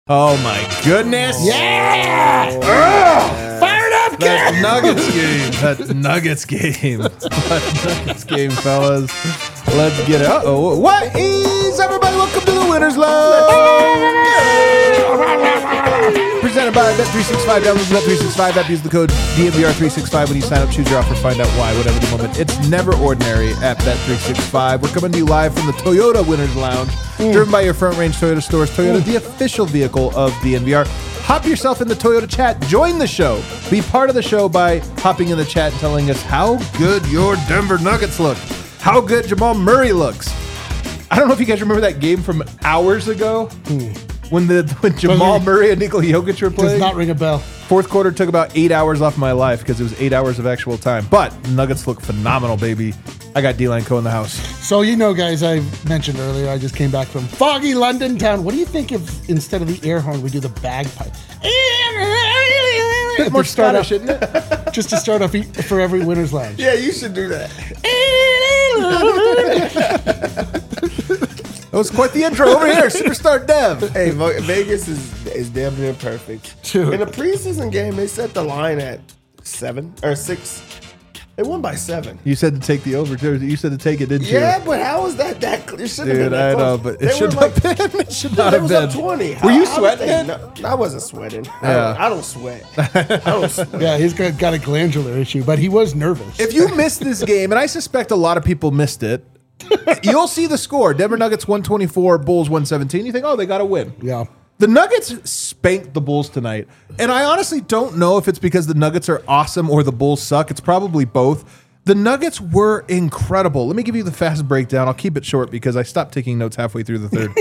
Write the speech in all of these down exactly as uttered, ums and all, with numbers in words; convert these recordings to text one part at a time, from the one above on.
Oh my goodness! Yeah! Oh, fired up, that kid! Nuggets game. That Nuggets game. That Nuggets game, fellas. Let's get it. Uh oh! What is everybody? Welcome to the Winners Lounge. Presented by Bet three sixty-five. Download Bet three sixty-five app. Use the code D M V R three sixty-five when you sign up. Choose your offer. Find out why. Whatever the moment. It's never ordinary at Bet three sixty-five. We're coming to you live from the Toyota Winners Lounge. Mm. Driven by your Front Range Toyota stores. Toyota, mm. the official vehicle of D N V R. Hop yourself in the Toyota chat. Join the show. Be part of the show by hopping in the chat and telling us how good your Denver Nuggets look. How good Jamal Murray looks. I don't know if you guys remember that game from hours ago. Mm. When the when Jamal Doesn't Murray and Nikola Jokic were playing. Does not ring a bell. Fourth quarter took about eight hours off my life because it was eight hours of actual time. But Nuggets look phenomenal, baby. I got D-Line Co in the house. So, you know, guys, I mentioned earlier, I just came back from foggy London town. What do you think if instead of the air horn, we do the bagpipe? Bit more Scottish, isn't it? Just to start off for every Winner's Lounge. Yeah, you should do that. That was quite the intro over here, Superstar Dev. Hey, Vegas is is damn near perfect. Dude. In the preseason game, they set the line at seven or six. They won by seven. You said to take the over, too. You said to take it, didn't you? Yeah, but how was that that clear? It should have been that I know, close. but it should like, have been. It should not have was been. Up twenty. Were how, you how sweating? No, I wasn't sweating. Yeah. I, don't, I don't sweat. I don't sweat. Yeah, he's got, got a glandular issue, but he was nervous. If you missed this game, and I suspect a lot of people missed it, you'll see the score. Denver Nuggets one twenty-four, Bulls one seventeen. You think, oh, they got to win. Yeah. The Nuggets spanked the Bulls tonight. And I honestly don't know if it's because the Nuggets are awesome or the Bulls suck. It's probably both. The Nuggets were incredible. Let me give you the fast breakdown. I'll keep it short because I stopped taking notes halfway through the third.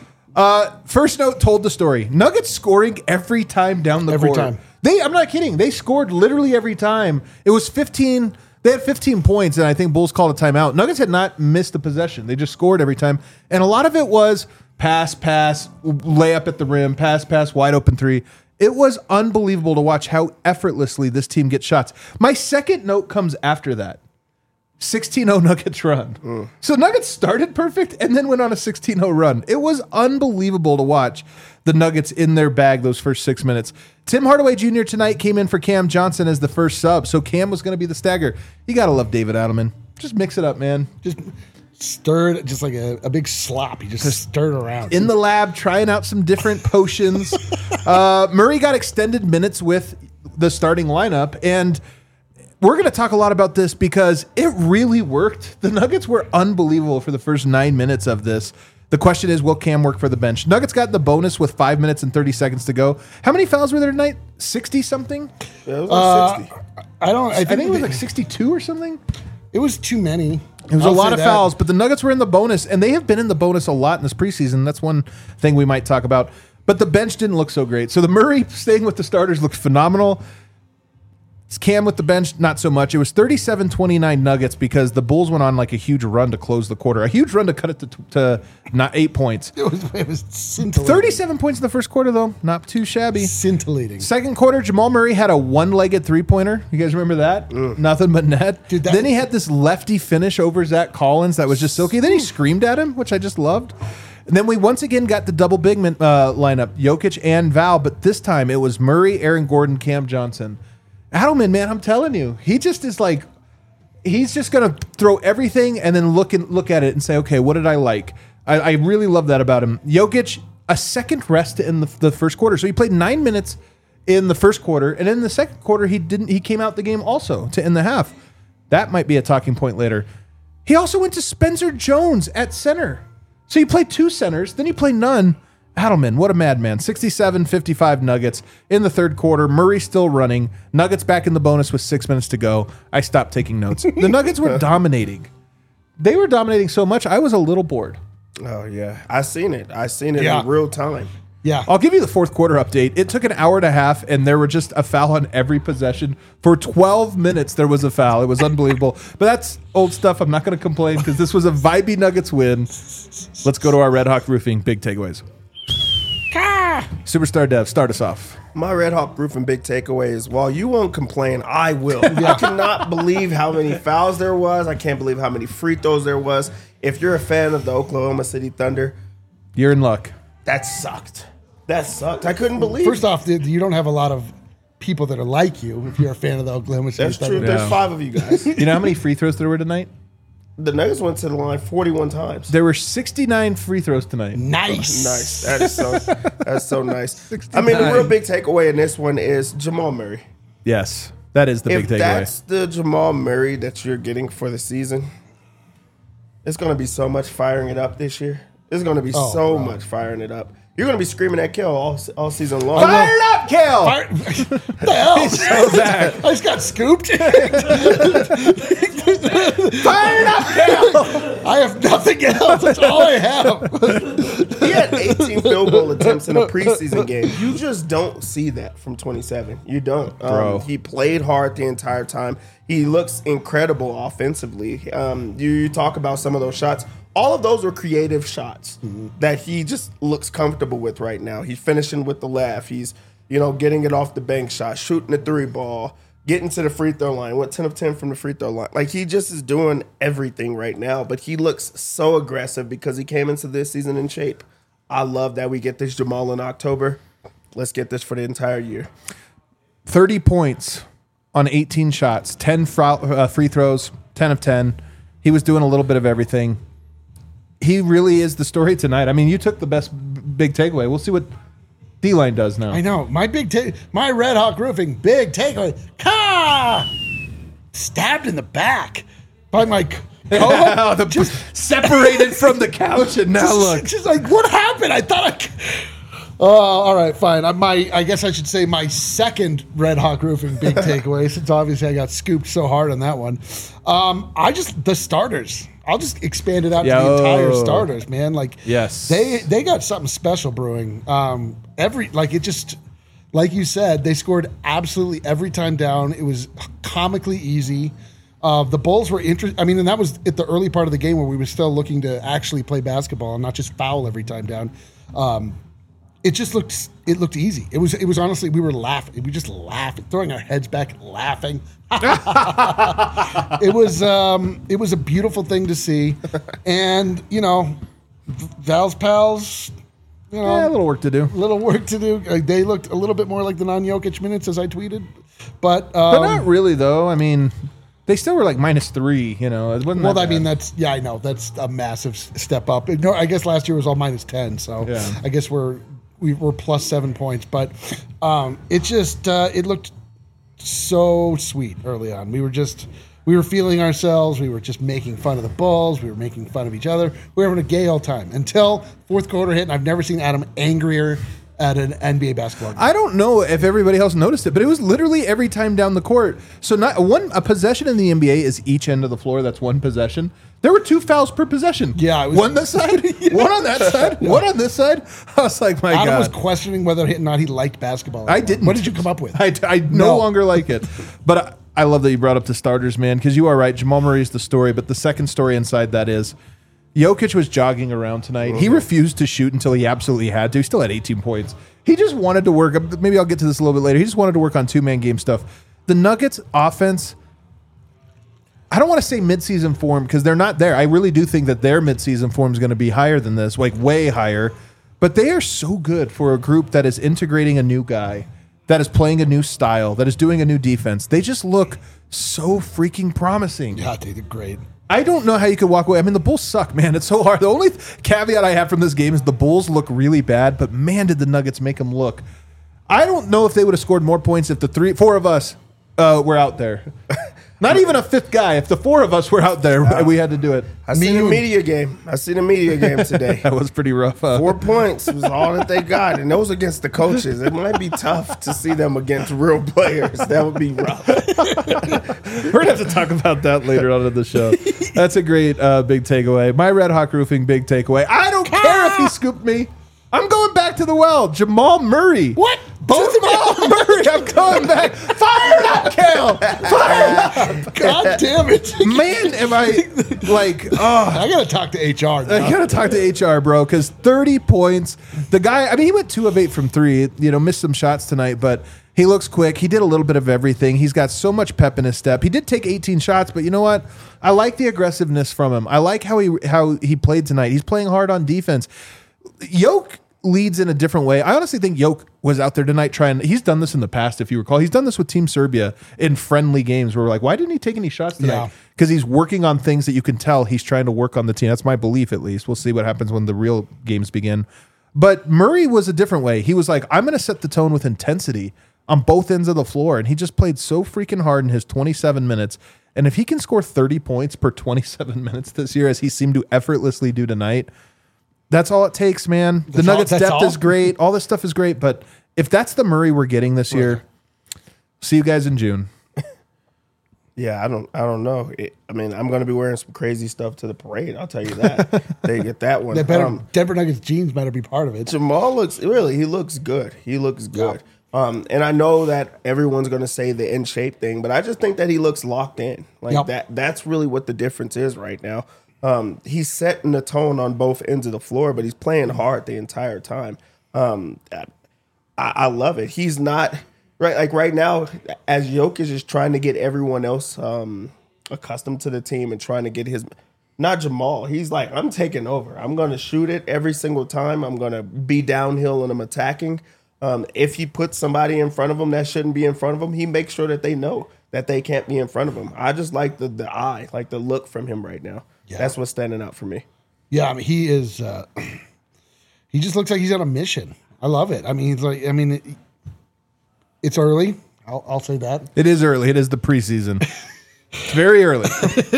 uh, first note told the story. Nuggets scoring every time down the every court. Every time. They, I'm not kidding. They scored literally every time. It was fifteen... They had fifteen points, and I think Bulls called a timeout. Nuggets had not missed a possession. They just scored every time. And a lot of it was pass, pass, layup at the rim, pass, pass, wide open three. It was unbelievable to watch how effortlessly this team gets shots. My second note comes after that. sixteen oh Nuggets run. Mm. So Nuggets started perfect and then went on a sixteen oh run. It was unbelievable to watch the Nuggets in their bag those first six minutes. Tim Hardaway Junior tonight came in for Cam Johnson as the first sub, so Cam was going to be the stagger. You got to love David Adelman. Just mix it up, man. Just stirred, just like a, a big slop. You just, just stirred around. In the lab, trying out some different potions. uh, Murray got extended minutes with the starting lineup, and we're going to talk a lot about this because it really worked. The Nuggets were unbelievable for the first nine minutes of this. The question is, will Cam work for the bench? Nuggets got the bonus with five minutes and thirty seconds to go. How many fouls were there tonight? sixty-something? Yeah, it was like uh, sixty. I don't. I think, I think it was like sixty-two or something. It was too many. It was I'll a lot of that. fouls, but the Nuggets were in the bonus, and they have been in the bonus a lot in this preseason. That's one thing we might talk about. But the bench didn't look so great. So the Murray staying with the starters looked phenomenal. Cam with the bench, not so much. It was thirty-seven twenty-nine Nuggets because the Bulls went on like a huge run to close the quarter. A huge run to cut it to, to not eight points. It was, it was scintillating. thirty-seven points in the first quarter, though. Not too shabby. Scintillating. Second quarter, Jamal Murray had a one-legged three-pointer. You guys remember that? Ugh. Nothing but net. Dude, that then he had this lefty finish over Zach Collins that was just silky. Then he screamed at him, which I just loved. And then we once again got the double big man, uh, lineup, Jokic and Val, but this time it was Murray, Aaron Gordon, Cam Johnson. Adelman, man, I'm telling you, he just is like, he's just going to throw everything and then look and look at it and say, okay, what did I like? I, I really love that about him. Jokic, a second rest in the, the first quarter. So he played nine minutes in the first quarter, and in the second quarter, he didn't. He came out the game also to end the half. That might be a talking point later. He also went to Spencer Jones at center. So he played two centers, then he played none. Adelman, what a madman. sixty-seven fifty-five Nuggets in the third quarter. Murray still running. Nuggets back in the bonus with six minutes to go. I stopped taking notes. The Nuggets were dominating. They were dominating so much, I was a little bored. Oh, yeah. I seen it. I seen it yeah. in real time. Yeah. I'll give you the fourth quarter update. It took an hour and a half, and there were just a foul on every possession. For twelve minutes, there was a foul. It was unbelievable. But that's old stuff. I'm not going to complain because this was a vibey Nuggets win. Let's go to our Red Hawk Roofing big takeaways. Superstar Dev, start us off. My Red Hawk Roofing big takeaway is, while you won't complain, I will. I cannot believe how many fouls there was. I can't believe how many free throws there was. If you're a fan of the Oklahoma City Thunder, you're in luck. That sucked. That sucked. I couldn't believe. First off, you don't have a lot of people that are like you if you're a fan of the Oklahoma City That's Thunder. true. There's Yeah. five of you guys. You know how many free throws there were tonight? The Nuggets went to the line forty-one times. There were sixty-nine free throws tonight. Nice. Nice. That is so. That's so nice. I mean, the real big takeaway in this one is Jamal Murray. Yes, that is the If big takeaway. that's the Jamal Murray that you're getting for the season, it's going to be so much firing it up this year. It's going to be Oh, so bro. much firing it up. You're going to be screaming at Kel all, all season long. Fire it up, Kale! Fire- what the hell? So bad. I just got scooped. Fire it up, Kale! I have nothing else. That's all I have. He had eighteen field goal attempts in a preseason game. You just don't see that from twenty-seven. You don't. Um, Bro. He played hard the entire time. He looks incredible offensively. Um, you, you talk about some of those shots. All of those were creative shots Mm-hmm. that he just looks comfortable with right now. He's finishing with the left. He's, you know, getting it off the bank shot, shooting the three ball, getting to the free throw line. Went ten of ten from the free throw line. Like, he just is doing everything right now. But he looks so aggressive because he came into this season in shape. I love that we get this Jamal in October. Let's get this for the entire year. thirty points on eighteen shots, ten fr- uh, free throws, ten of ten. He was doing a little bit of everything. He really is the story tonight. I mean, you took the best b- big takeaway. We'll see what D-Line does now. I know. My big take, my Red Hawk Roofing big takeaway. Ka! Stabbed in the back by my co- Oh, the, just separated from the couch, and now just, look. just like, what happened? I thought I. c- Oh, all right, fine. I, my, I guess I should say my second Red Hawk Roofing big takeaway, since obviously I got scooped so hard on that one. Um, I just the starters. I'll just expand it out to the Yo. entire starters, man. Like, Yes. they they got something special brewing. Um, every like it just like you said, they scored absolutely every time down. It was comically easy. Uh, the Bulls were interesting. I mean, and that was at the early part of the game where we were still looking to actually play basketball and not just foul every time down. Um, it just looked it looked easy. It was it was honestly we were laughing. We just laughing, throwing our heads back, laughing. It was um, it was a beautiful thing to see, and you know, Val's pals. You know, Yeah, a little work to do. little work to do. Uh, they looked a little bit more like the non-Jokic minutes as I tweeted, but um, But not really, though. I mean, they still were like minus three, you know. It wasn't well, that I mean bad. that's yeah, I know that's a massive s- step up. No, I guess last year was all minus ten, so Yeah. I guess we're we were plus seven points, but um, it just uh, it looked so sweet early on. We were just we were feeling ourselves. We were just making fun of the Bulls. We were making fun of each other. We were having a gay old time until fourth quarter hit, and I've never seen Adam angrier at an N B A basketball game. I don't know if everybody else noticed it, but it was literally every time down the court. So not one a possession in the N B A is each end of the floor. That's one possession. There were two fouls per possession. Yeah, it was- one this side, one on that side, one on this side. I was like, my Adam god. was questioning whether or not he liked basketball. I didn't. What did you come up with? I, I no, No. longer like it. But I, I love that you brought up the starters, man, because you are right. Jamal Murray is the story, but the second story inside that is Jokic was jogging around tonight. He refused to shoot until he absolutely had to. He still had eighteen points. He just wanted to work. Maybe I'll get to this a little bit later. He just wanted to work on two-man game stuff. The Nuggets offense, I don't want to say midseason form because they're not there. I really do think that their midseason form is going to be higher than this, like way higher. But they are so good for a group that is integrating a new guy, that is playing a new style, that is doing a new defense. They just look so freaking promising. Yeah, they did great. I don't know how you could walk away. I mean, the Bulls suck, man. It's so hard. The only th- caveat I have from this game is the Bulls look really bad, but man, did the Nuggets make them look. I don't know if they would have scored more points if the three, four of us uh, were out there. Not even a fifth guy. If the four of us were out there, we had to do it. I seen a media game. I seen a media game today. That was pretty rough. huh? Four points was all that they got, and those against the coaches. It might be tough to see them against real players. That would be rough. We're going to have to talk about that later on in the show. That's a great uh, big takeaway. My Red Hawk Roofing big takeaway. I don't care if he scooped me. I'm going back to the well. Jamal Murray. What? Both of Jamal you? Murray. I'm going back. Fire it up, Kale. Fire it up. God damn it. Man, am I like, oh. I got to talk to H R now. I gotta talk to H R, bro, because thirty points. The guy, I mean, he went two of eight from three. You know, missed some shots tonight, but he looks quick. He did a little bit of everything. He's got so much pep in his step. He did take eighteen shots, but you know what? I like the aggressiveness from him. I like how he how he played tonight. He's playing hard on defense. Yoke leads in a different way. I honestly think Yoke was out there tonight trying. He's done this in the past, if you recall. He's done this with Team Serbia in friendly games where we're like, why didn't he take any shots tonight? Because yeah. he's working on things that you can tell he's trying to work on the team. That's my belief, at least. We'll see what happens when the real games begin. But Murray was a different way. He was like, I'm going to set the tone with intensity on both ends of the floor. And he just played so freaking hard in his twenty-seven minutes. And if he can score thirty points per twenty-seven minutes this year, as he seemed to effortlessly do tonight, that's all it takes, man. The that's Nuggets all, depth all? is great. All this stuff is great. But if that's the Murray we're getting this year, see you guys in June. Yeah, I don't I don't know. It, I mean, I'm going to be wearing some crazy stuff to the parade. I'll tell you that. They get that one. They better, um, Denver Nuggets jeans better be part of it. Jamal looks, really, he looks good. He looks good. Yeah. Um, and I know that everyone's going to say the in shape thing, but I just think that he looks locked in. Like yep. that. That's really what the difference is right now. Um, he's setting the tone on both ends of the floor, but he's playing hard the entire time. Um, I, I love it. He's not right. Like right now, as Jokic is trying to get everyone else um, accustomed to the team and trying to get his, not Jamal. He's like, I'm taking over. I'm going to shoot it every single time. I'm going to be downhill and I'm attacking. Um, if he puts somebody in front of him that shouldn't be in front of him, he makes sure that they know that they can't be in front of him. I just like the the eye, like the look from him right now. Yeah. That's what's standing out for me. Yeah, I mean, he is. Uh, he just looks like he's on a mission. I love it. I mean, he's like. I mean, it, it's early. I'll, I'll say that. It is early. It is the preseason. It's very early.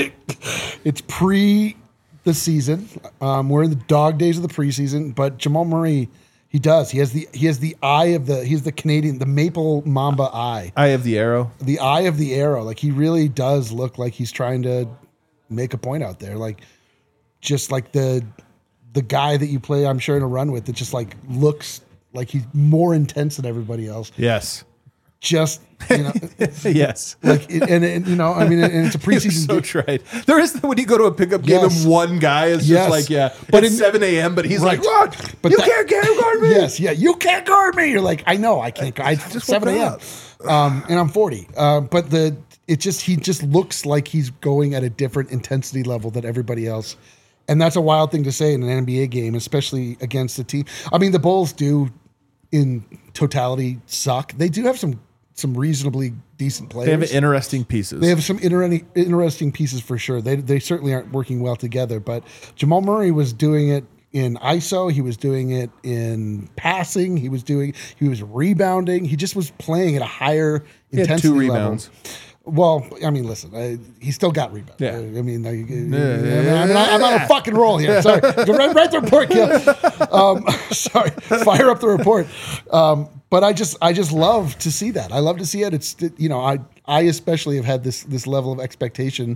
It's pre the season. Um, we're in the dog days of the preseason. But Jamal Murray, he does. He has the he has the eye of the. He's the Canadian, the Maple Mamba eye. Eye of the arrow. The eye of the arrow. Like he really does look like he's trying to make a point out there, like just like the the guy that you play, I'm sure, in a run with that just like looks like he's more intense than everybody else. Yes, just you know, yes, like and, and you know, I mean, and it's a preseason. So tried. There is when you go to a pickup game yes. and one guy is yes. just like yeah, but it's seven a.m. But he's right. like, what? But you that, can't guard me. Yes, yeah, you can't guard me. You're like, I know, I can't. I, I just seven a.m. Um, and I'm forty. Uh, but the it just he just looks like he's going at a different intensity level than everybody else. And that's a wild thing to say in an N B A game, especially against a team. I mean, the Bulls do, in totality, suck. They do have some some reasonably decent players. They have interesting pieces. They have some inter- interesting pieces for sure. They they certainly aren't working well together. But Jamal Murray was doing it in I S O. He was doing it in passing. He was doing. He was rebounding. He just was playing at a higher he intensity had two level. Rebounds. Well, I mean, listen, I, he still got rebounds. Yeah. I mean, I, yeah, I mean, I mean I, I'm on a fucking roll here. Sorry. Right, right the report, Gil. Um, sorry. Fire up the report. Um, but I just, I just love to see that. I love to see it. It's, you know, I, I especially have had this, this level of expectation,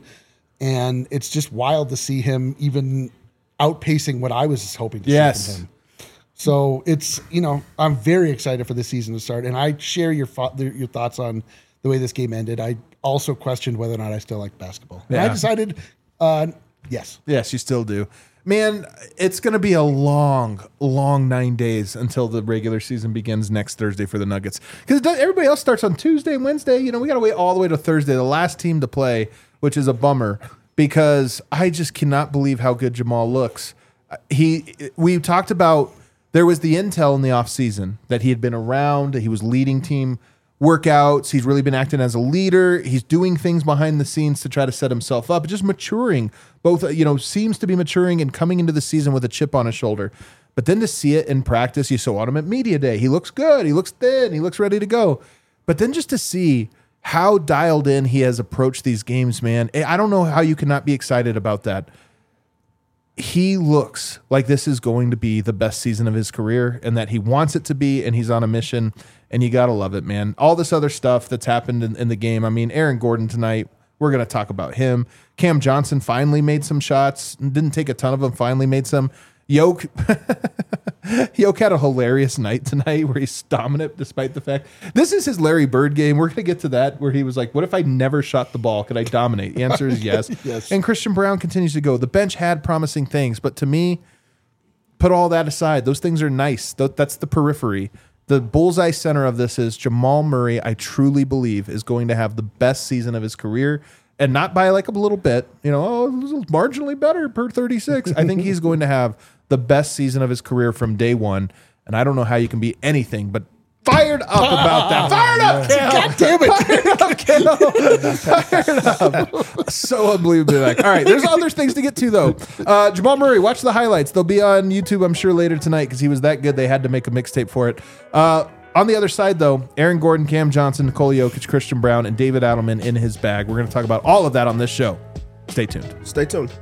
and it's just wild to see him even outpacing what I was hoping to yes. see from him. So it's, you know, I'm very excited for the season to start, and I share your fo- your thoughts on the way this game ended. I also questioned whether or not I still like basketball. And yeah. I decided, uh, yes. Yes, you still do. Man, it's going to be a long, long nine days until the regular season begins next Thursday for the Nuggets. Because everybody else starts on Tuesday and Wednesday. You know, we got to wait all the way to Thursday, the last team to play, which is a bummer because I just cannot believe how good Jamal looks. He, we talked about, there was the intel in the offseason that he had been around, he was leading team workouts. He's really been acting as a leader. He's doing things behind the scenes to try to set himself up, just maturing. Both, you know, seems to be maturing and coming into the season with a chip on his shoulder. But then to see it in practice, you saw him at media day. He looks good. He looks thin. He looks ready to go. But then just to see how dialed in he has approached these games, man, I don't know how you cannot be excited about that. He looks like this is going to be the best season of his career and that he wants it to be, and he's on a mission, and you got to love it, man. All this other stuff that's happened in, in the game. I mean, Aaron Gordon tonight, we're going to talk about him. Cam Johnson finally made some shots. Didn't take a ton of them, finally made some. Yoke, Yoke had a hilarious night tonight where he's dominant despite the fact. This is his Larry Bird game. We're going to get to that where he was like, what if I never shot the ball? Could I dominate? The answer is yes. Yes. And Christian Brown continues to go. The bench had promising things, but to me, put all that aside. Those things are nice. That's the periphery. The bullseye center of this is Jamal Murray, I truly believe, is going to have the best season of his career. And not by like a little bit, you know, oh, it was marginally better per thirty-six. I think he's going to have the best season of his career from day one. and I don't know how you can be anything but fired up about that. Fired up, Kale. God damn it. Fired up, Kale. Fired up. So unbelievably like. All right, there's other things to get to, though. Uh, Jamal Murray, watch the highlights. They'll be on YouTube, I'm sure, later tonight because he was that good. They had to make a mixtape for it. Uh, on the other side, though, Aaron Gordon, Cam Johnson, Nikola Jokic, Christian Brown, and David Adelman in his bag. We're going to talk about all of that on this show. Stay tuned. Stay tuned.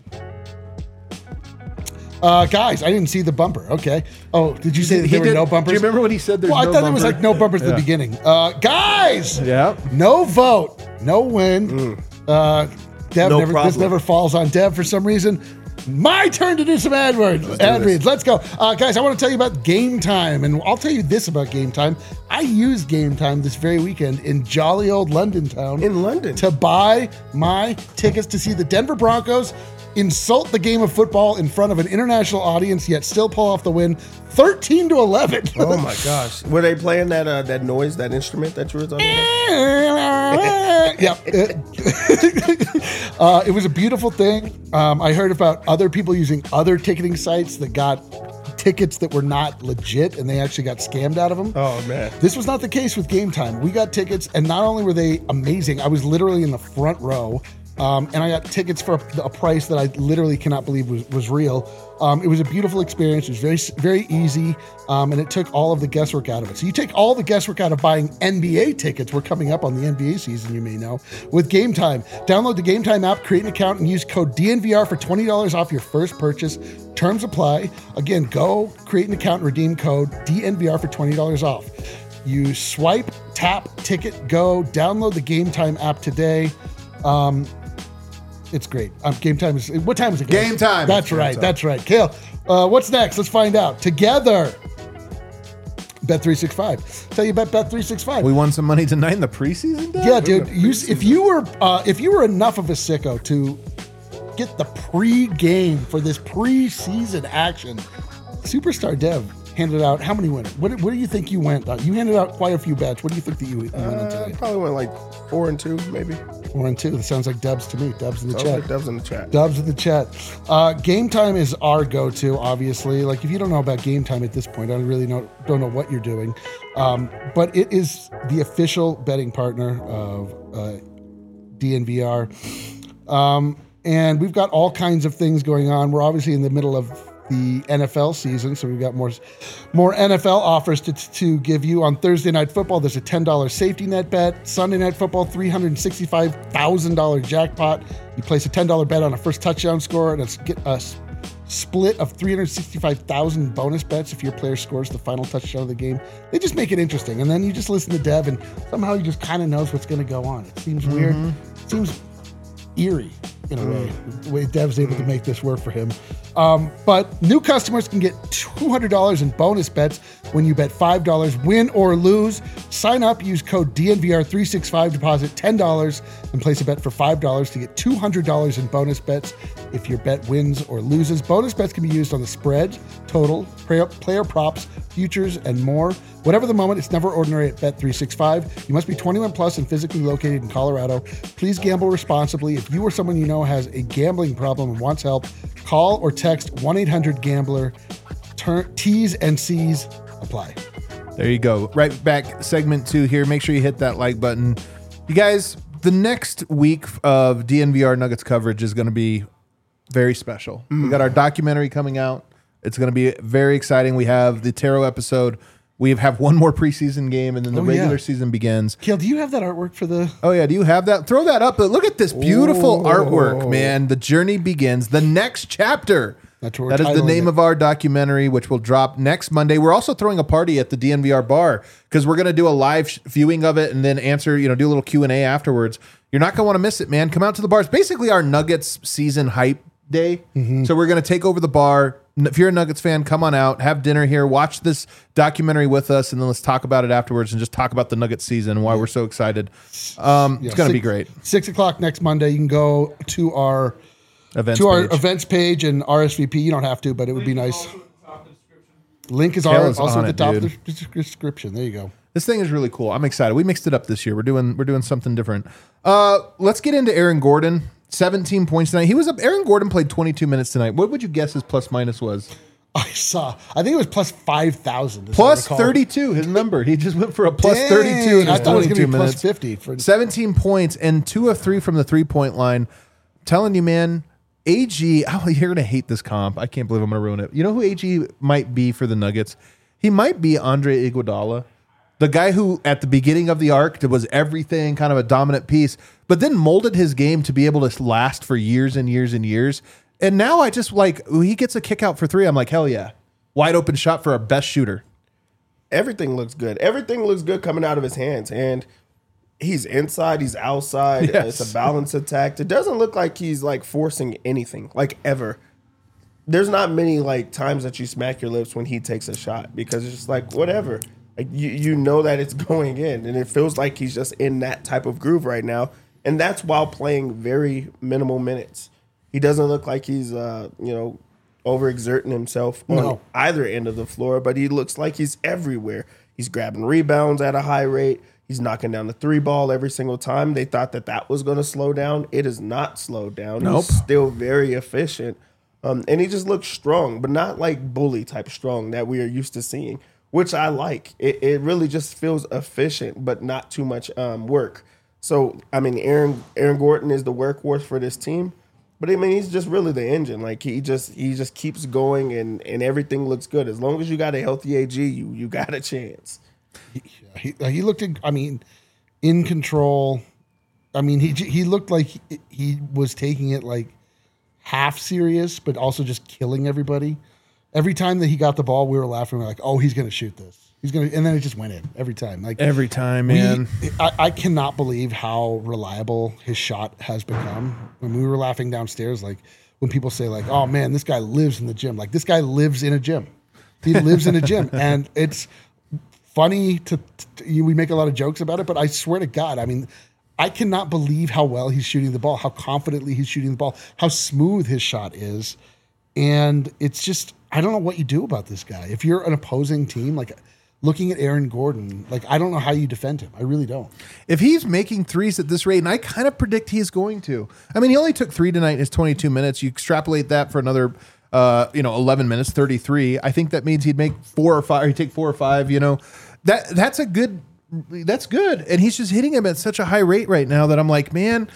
Uh, guys, I didn't see the bumper. Okay. Oh, did you say that He there were did- no bumpers? Do you remember what he said? There's Well, I no thought it was bumper? like no bumpers at Yeah. the beginning. Uh, guys, Yeah. no vote, no win. Uh, Dev No never, this problem. never falls on Dev for some reason. My turn to do some ad words. do Ad this. reads. Let's go. Uh, guys, I want to tell you about Game Time. And I'll tell you this about Game Time. I used Game Time this very weekend in jolly old London town. In London. To buy my tickets to see the Denver Broncos insult the game of football in front of an international audience, yet still pull off the win thirteen to eleven. Oh my gosh. Were they playing that uh, that noise, that instrument that you were talking about? Yep. uh, it was a beautiful thing. Um, I heard about other people using other ticketing sites that got tickets that were not legit and they actually got scammed out of them. Oh man. This was not the case with Game Time. We got tickets, and not only were they amazing, I was literally in the front row, um, and I got tickets for a, a price that I literally cannot believe was, was real. Um, it was a beautiful experience. It was very, very easy, um, and it took all of the guesswork out of it. So you take all the guesswork out of buying N B A tickets. We're coming up on the N B A season, you may know, with Game Time. Download the Game Time app, create an account, and use code D N V R for twenty dollars off your first purchase. Terms apply. Again, go create an account and redeem code D N V R for twenty dollars off. You swipe, tap, ticket, go. Download the Game Time app today. Um, it's great. Um, game time is what time is it? guys? Game time. That's Game right. time. That's right. Kale, uh, what's next? Let's find out together. Bet three sixty-five. Tell you about Bet three sixty-five. We won some money tonight in the preseason, Dad? Yeah, dude. You, if you were uh, if you were enough of a sicko to get the pre-game for this preseason action, Superstar Dev handed out how many winners? What, what do you think you went? Uh, you handed out quite a few bets. What do you think that you, you went on Uh, today? probably went like four and two, maybe. Four and two. That sounds like Dubs to me. Dubs in the Oh, chat. that was in the chat. Dubs in the chat. Uh, Game Time is our go-to, obviously. Like, if you don't know about Game Time at this point, I really know, don't know what you're doing. Um, but it is the official betting partner of uh, D N V R. Um, and we've got all kinds of things going on. We're obviously in the middle of the N F L season, so we've got more more N F L offers to, to give you. On Thursday Night Football, there's a ten dollars safety net bet. Sunday Night Football, three hundred sixty-five thousand dollars jackpot. You place a ten dollars bet on a first touchdown score, and it's get a s- split of three hundred sixty-five thousand bonus bets if your player scores the final touchdown of the game. They just make it interesting, and then you just listen to Dev, and somehow he just kind of knows what's going to go on. It seems weird. It seems eerie in a way, the way Dev's able to make this work for him. Um, but new customers can get two hundred dollars in bonus bets when you bet five dollars, win or lose. Sign up, use code D N V R three sixty-five, deposit ten dollars, and place a bet for five dollars to get two hundred dollars in bonus bets if your bet wins or loses. Bonus bets can be used on the spread, total, player, player props, futures, and more. Whatever the moment, it's never ordinary at Bet three sixty-five. You must be twenty-one plus and physically located in Colorado. Please gamble responsibly. If you or someone you know has a gambling problem and wants help, call or text one eight hundred gambler. Turn, T's and C's apply. There you go. Right back, segment two here. Make sure you hit that like button. You guys, the next week of D N V R Nuggets coverage is going to be very special. Mm. We got our documentary coming out. It's going to be very exciting. We have the Tarot episode. We have one more preseason game, and then the Oh, regular yeah. season begins. Kale, do you have that artwork for the... Oh, yeah. Do you have that? Throw that up. But look at this beautiful Oh. artwork, man. The journey begins. The next chapter. That's what we're That is the titling name it. of our documentary, which will drop next Monday. We're also throwing a party at the D N V R bar because we're going to do a live sh- viewing of it and then answer, you know, do a little Q and A afterwards. You're not going to want to miss it, man. Come out to the bar. It's basically our Nuggets season hype day. Mm-hmm. So we're going to take over the bar. If you're a Nuggets fan, come on out, have dinner here, watch this documentary with us, and then let's talk about it afterwards and just talk about the Nuggets season and why we're so excited. Um, Yeah, it's going to be six- great. Six o'clock next Monday. You can go to our Events to our page. events page and R S V P. You don't have to, but it would be nice. Link is Kale our, is also on at the it, top of dude. the description. There you go. This thing is really cool. I'm excited. We mixed it up this year. We're doing we're doing something different. Uh, let's get into Aaron Gordon. seventeen points tonight. He was up. Aaron Gordon played twenty-two minutes tonight. What would you guess his plus minus was? I saw. I think it was plus five thousand. Plus thirty-two. His number. He just went for a plus Dang, thirty-two in his I thought it was twenty-two gonna be minutes. plus fifty for seventeen points and two of three from the three point line. I'm telling you, man. A G. Oh, you're gonna hate this comp. I can't believe I'm gonna ruin it. You know who A G might be for the Nuggets? He might be Andre Iguodala. The guy who, at the beginning of the arc, was everything, kind of a dominant piece, but then molded his game to be able to last for years and years and years. And now I just like, when he gets a kick out for three, I'm like, hell yeah. Wide open shot for our best shooter. Everything looks good. Everything looks good coming out of his hands. And he's inside, he's outside. Yes. It's a balanced attack. It doesn't look like he's like forcing anything, like ever. There's not many like times that you smack your lips when he takes a shot because it's just like, whatever. Like you, you know that it's going in, and it feels like he's just in that type of groove right now, and that's while playing very minimal minutes. He doesn't look like he's, uh, you know, overexerting himself on No. either end of the floor, but he looks like he's everywhere. He's grabbing rebounds at a high rate. He's knocking down the three ball every single time. They thought that that was going to slow down. It is not slowed down. Nope. He's still very efficient, um, and he just looks strong, but not like bully type strong that we are used to seeing, which I like. It, it really just feels efficient, but not too much um, work. So, I mean, Aaron Aaron Gordon is the workhorse for this team, but I mean, he's just really the engine. Like he just he just keeps going, and, and everything looks good. As long as you got a healthy A G, you you got a chance. He, he, he looked, in, I mean, in control. I mean, he he looked like he, he was taking it like half serious, but also just killing everybody. Every time that he got the ball, we were laughing. We were like, "Oh, he's going to shoot this. He's going to," and then it just went in every time. Like Every time, we- man. I, I cannot believe how reliable his shot has become. When we were laughing downstairs, like when people say, "Like, oh man, this guy lives in the gym." Like this guy lives in a gym. He lives in a gym, and it's funny to, to. We make a lot of jokes about it, but I swear to God, I mean. I cannot believe how well he's shooting the ball, how confidently he's shooting the ball, how smooth his shot is. And it's just, I don't know what you do about this guy. If you're an opposing team, like looking at Aaron Gordon, like I don't know how you defend him. I really don't. If he's making threes at this rate, and I kind of predict he's going to. I mean, he only took three tonight in his twenty-two minutes. You extrapolate that for another, uh, you know, eleven minutes, thirty-three. I think that means he'd make four or five. He'd take four or five. You know, that that's a good. That's good. And he's just hitting him at such a high rate right now that I'm like, man,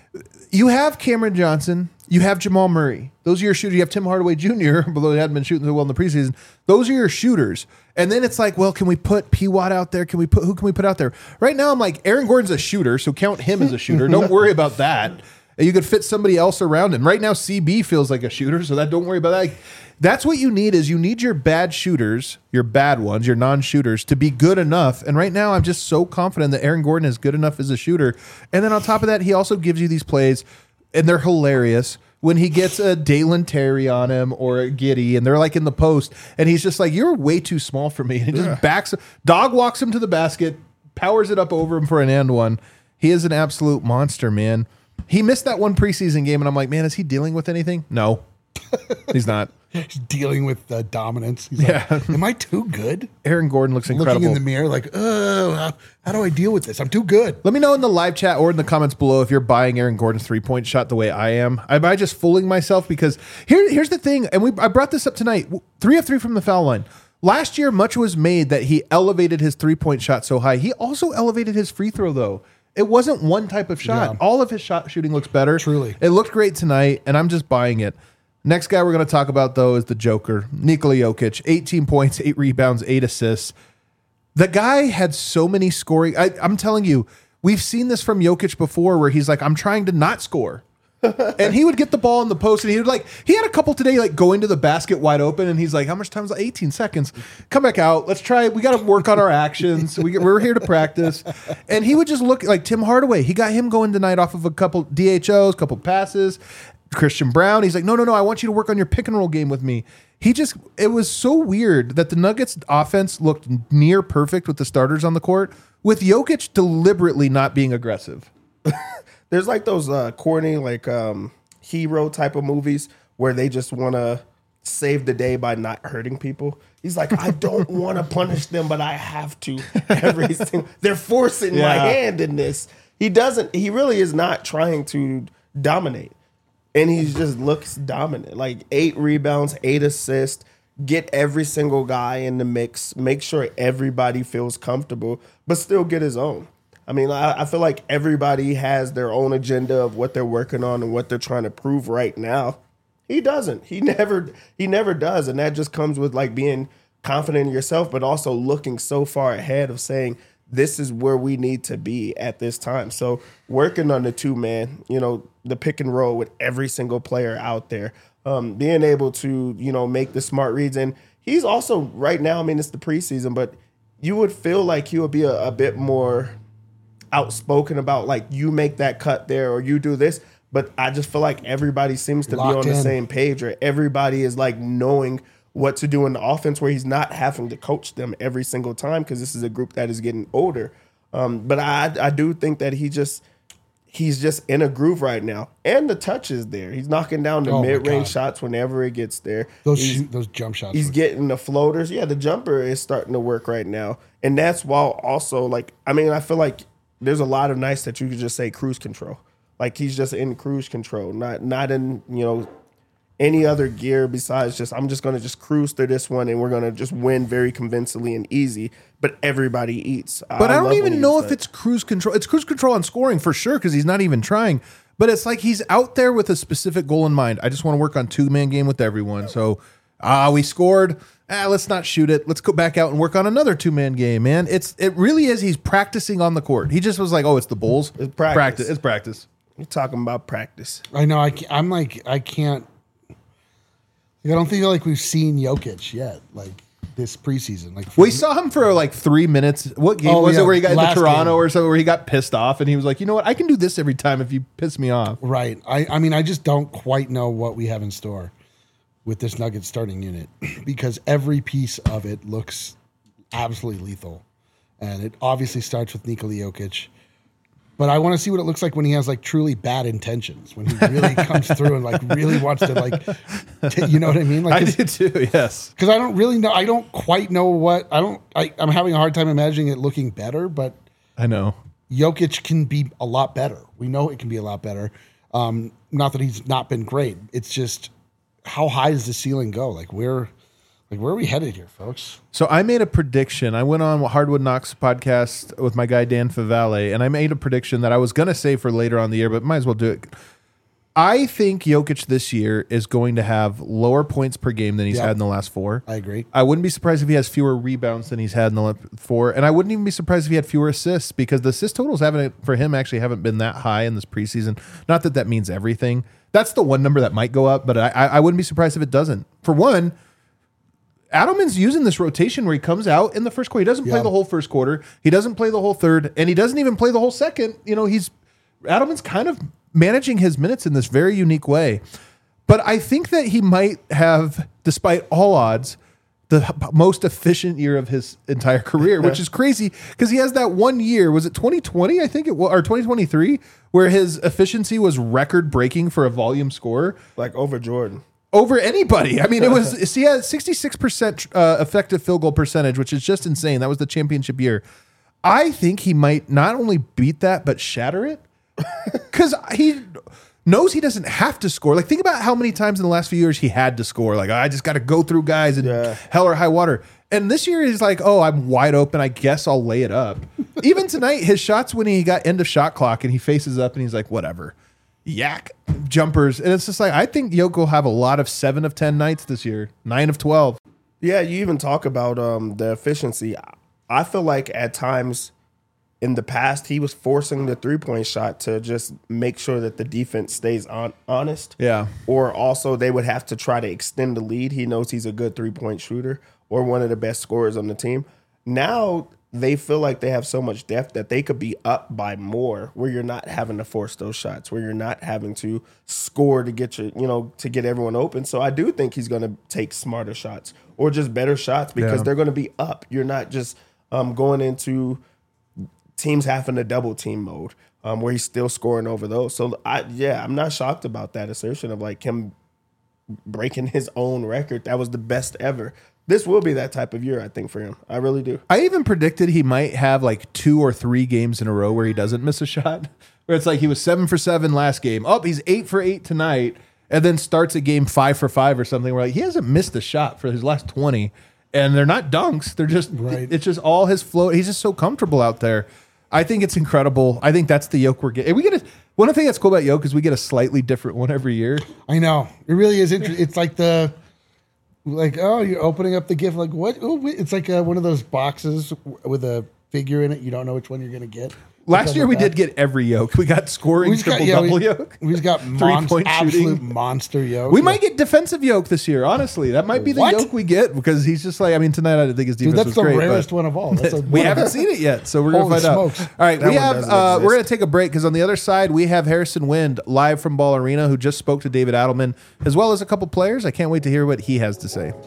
you have Cameron Johnson, you have Jamal Murray. Those are your shooters. You have Tim Hardaway Junior, although he hadn't been shooting so well in the preseason. Those are your shooters. And then it's like, well, can we put P. Watt out there? Can we put, who can we put out there? Right now, I'm like, Aaron Gordon's a shooter, so count him as a shooter. Don't worry about that. You could fit somebody else around him. Right now, C B feels like a shooter, so that don't worry about that. Like, that's what you need is you need your bad shooters, your bad ones, your non-shooters to be good enough. And right now I'm just so confident that Aaron Gordon is good enough as a shooter. And then on top of that, he also gives you these plays, and they're hilarious, when he gets a Dalen Terry on him or a Giddey, and they're like in the post, and he's just like, you're way too small for me. And he just Yeah. backs, dog walks him to the basket, powers it up over him for an and one. He is an absolute monster, man. He missed that one preseason game, and I'm like, man, is he dealing with anything? No, he's not. He's dealing with uh, dominance. He's Yeah. like, am I too good? Aaron Gordon looks incredible. Looking in the mirror like, oh, how, how do I deal with this? I'm too good. Let me know in the live chat or in the comments below if you're buying Aaron Gordon's three-point shot the way I am. Am I just fooling myself? Because here, here's the thing, and we I brought this up tonight. Three of three from the foul line. Last year, much was made that he elevated his three-point shot so high. He also elevated his free throw, though. It wasn't one type of shot. Yeah. All of his shot shooting looks better. Truly. It looked great tonight, and I'm just buying it. Next guy we're going to talk about, though, is the Joker, Nikola Jokic. eighteen points, eight rebounds, eight assists. The guy had so many scoring. I, I'm telling you, we've seen this from Jokic before where he's like, I'm trying to not score. And he would get the ball in the post, and he would like, he had a couple today, like going to the basket wide open, and he's like, how much time is it? eighteen seconds. Come back out. Let's try. We got to work on our actions. We, we're here to practice. And he would just look like Tim Hardaway. He got him going tonight off of a couple D H Os, couple passes. Christian Brown, he's like, no, no, no, I want you to work on your pick and roll game with me. He just, it was so weird that the Nuggets offense looked near perfect with the starters on the court, with Jokic deliberately not being aggressive. There's like those uh, corny, like um, hero type of movies where they just want to save the day by not hurting people. He's like, I don't want to punish them, but I have to. Every single, they're forcing my Yeah. hand in this. He doesn't. He really is not trying to dominate, and he just looks dominant. Like eight rebounds, eight assists. get every single guy in the mix, make sure everybody feels comfortable, but still get his own. I mean, I, I feel like everybody has their own agenda of what they're working on and what they're trying to prove right now. He doesn't. He never he never does. And that just comes with like being confident in yourself, but also looking so far ahead of saying, this is where we need to be at this time. So working on the two man, you know, the pick and roll with every single player out there, um, being able to, you know, make the smart reads. And he's also right now, I mean, it's the preseason, but you would feel like he would be a, a bit more outspoken about like, you make that cut there or you do this. But I just feel like everybody seems to Locked be on in. the same page, or everybody is like knowing what to do in the offense, where he's not having to coach them every single time, because this is a group that is getting older. Um, but I I do think that he just he's just in a groove right now, and the touch is there. He's knocking down the Oh, my mid range God. shots whenever it gets there. Those He's- shoot, those jump shots. He's were- getting the floaters. Yeah, the jumper is starting to work right now. And that's while also, like, I mean, I feel like there's a lot of nights that you could just say cruise control. Like, he's just in cruise control, not not in, you know, any other gear besides just, I'm just going to just cruise through this one and we're going to just win very convincingly and easy. But everybody eats. But I, don't love when even he know does if that. it's cruise control. It's cruise control on scoring for sure, because he's not even trying. But it's like he's out there with a specific goal in mind. I just want to work on two-man game with everyone. So, ah, we scored. Ah, let's not shoot it. Let's go back out and work on another two-man game, man. It's It really is. He's practicing on the court. He just was like, oh, it's the Bulls. It's practice. It's practice. You're talking about practice. I know. I, ca- I'm like, I can't. I don't feel like we've seen Jokic yet, like this preseason. Like We saw him for like three minutes. What game Oh, was yeah, it where he got into last Toronto game. or so, where he got pissed off and he was like, you know what? I can do this every time if you piss me off. Right. I, I mean, I just don't quite know what we have in store with this Nuggets starting unit, because every piece of it looks absolutely lethal. And it obviously starts with Nikola Jokic. But I want to see what it looks like when he has like truly bad intentions, when he really comes through and like really wants to like, t- you know what I mean? Like, I did too, yes. because I don't really know. I don't quite know what I don't. I, I'm having a hard time imagining it looking better, but I know. Jokic can be a lot better. We know it can be a lot better. Um, not that he's not been great. It's just, how high does the ceiling go? Like where, like where are we headed here, folks? So I made a prediction. I went on Hardwood Knocks podcast with my guy Dan Favale, and I made a prediction that I was going to say for later on in the year, but might as well do it. I think Jokic this year is going to have lower points per game than he's Yeah. had in the last four. I agree. I wouldn't be surprised if he has fewer rebounds than he's had in the last four, and I wouldn't even be surprised if he had fewer assists, because the assist totals haven't for him actually haven't been that high in this preseason. Not that that means everything. That's the one number that might go up, but I, I wouldn't be surprised if it doesn't. For one, Adelman's using this rotation where he comes out in the first quarter. He doesn't play Yeah. the whole first quarter. He doesn't play the whole third, and he doesn't even play the whole second. You know, he's Adelman's kind of managing his minutes in this very unique way. But I think that he might have, despite all odds, the h- most efficient year of his entire career, which is crazy because he has that one year. Was it twenty twenty? I think it was, or twenty twenty-three, where his efficiency was record breaking for a volume score. Like over Jordan. Over anybody. I mean, it was, he had sixty-six percent uh, effective field goal percentage, which is just insane. That was the championship year. I think he might not only beat that, but shatter it, because he knows he doesn't have to score. Like, think about how many times in the last few years he had to score. Like, I just got to go through guys and Yeah. hell or high water. And this year he's like, oh, I'm wide open. I guess I'll lay it up. Even tonight, his shots when he got end of shot clock and he faces up and he's like, whatever. Yak jumpers. And it's just like, I think Jokic will have a lot of seven of ten nights this year, nine of twelve. Yeah, you even talk about um, the efficiency. I feel like at times in the past, he was forcing the three-point shot to just make sure that the defense stays on, honest. Yeah. Or also they would have to try to extend the lead. He knows he's a good three-point shooter or one of the best scorers on the team. Now they feel like they have so much depth that they could be up by more, where you're not having to force those shots, where you're not having to score to get your, you know, to get everyone open. So I do think he's going to take smarter shots or just better shots because Yeah. they're going to be up. You're not just um, going into teams having a double team mode um, where he's still scoring over those. So I, yeah, I'm not shocked about that assertion of like him breaking his own record. That was the best ever. This will be that type of year, I think, for him. I really do. I even predicted he might have like two or three games in a row where he doesn't miss a shot. Where it's like he was seven for seven last game. Oh, he's eight for eight tonight. and then starts a game five for five or something. Where like he hasn't missed a shot for his last twenty, and they're not dunks. They're just Right. it's just all his flow. He's just so comfortable out there. I think it's incredible. I think that's the Yoke we're getting. We get a, one of the things that's cool about Yoke is we get a slightly different one every year. I know. It really is interesting. It's like the, like, oh, you're opening up the gift. Like, what? Oh, wait. It's like uh one of those boxes with a figure in it. You don't know which one you're going to get. Last year we did get every Yoke. We got scoring We just got, triple yeah, double we, Yoke. we just got Three mon- point absolute shooting. monster yoke. We Yeah. might get defensive Yoke this year. Honestly, that might be the What? Yoke we get because he's just like. I mean, tonight I didn't think his defense Dude, that's was the great. rarest but one of all. That's a, we haven't seen it yet, so we're gonna Holy find smokes. out. All right, That we one have. doesn't Uh, we're exist. gonna take a break because on the other side we have Harrison Wind live from Ball Arena, who just spoke to David Adelman, as well as a couple players. I can't wait to hear what he has to say.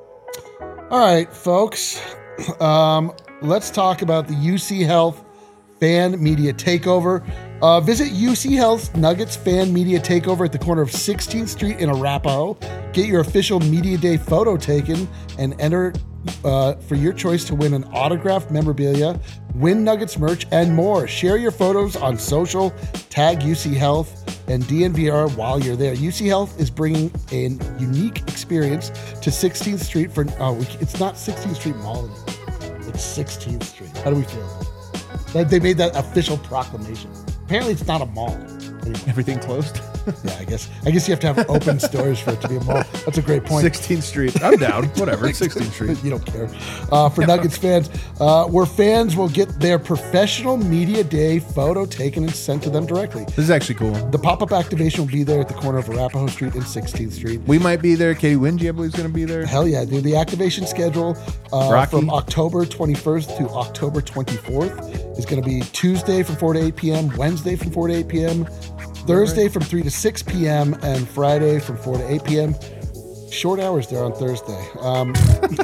All right, folks. Um, let's talk about the U C Health Fan Media Takeover. Uh, visit U C Health's Nuggets Fan Media Takeover at the corner of sixteenth Street in Arapahoe. Get your official Media Day photo taken and enter uh, for your choice to win an autographed memorabilia, win Nuggets merch, and more. Share your photos on social, tag U C Health and D N V R while you're there. U C Health is bringing a unique experience to sixteenth Street for, oh, we, it's not sixteenth Street Mall anymore. It's sixteenth Street. How do we feel about that? That they made that official proclamation. Apparently it's not a mall. Anyway, Everything closed. yeah, I guess. I guess you have to have open stores for it to be a mall. That's a great point. sixteenth Street. I'm down. Whatever. sixteenth Street. You don't care. Uh, for Nuggets fans, uh, where fans will get their professional media day photo taken and sent to them directly. This is actually cool. The pop-up activation will be there at the corner of Arapahoe Street and sixteenth Street. We might be there. Katie Wingy, I believe, is going to be there. Hell yeah, dude. The activation schedule uh, Rocky. from October twenty-first to October twenty-fourth is going to be Tuesday from four to eight p.m., Wednesday from four to eight p.m., Thursday from three to six p.m., and Friday from four to eight p.m. Short hours there on Thursday. Um,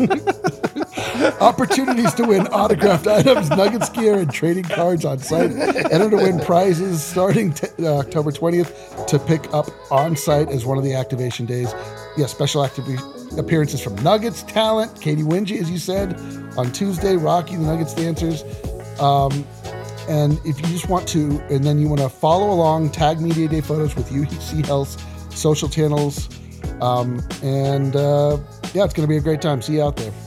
opportunities to win autographed items, Nuggets gear, and trading cards on site. Enter to win prizes starting t- uh, October twentieth to pick up on site as one of the activation days. Yeah, special activity appearances from Nuggets talent, Katie Wingy, as you said, on Tuesday, Rocky, the Nuggets dancers. Um, and if you just want to, and then you want to follow along, tag Media Day photos with U C Health's social channels. Um, and uh, yeah, it's going to be a great time. See you out there.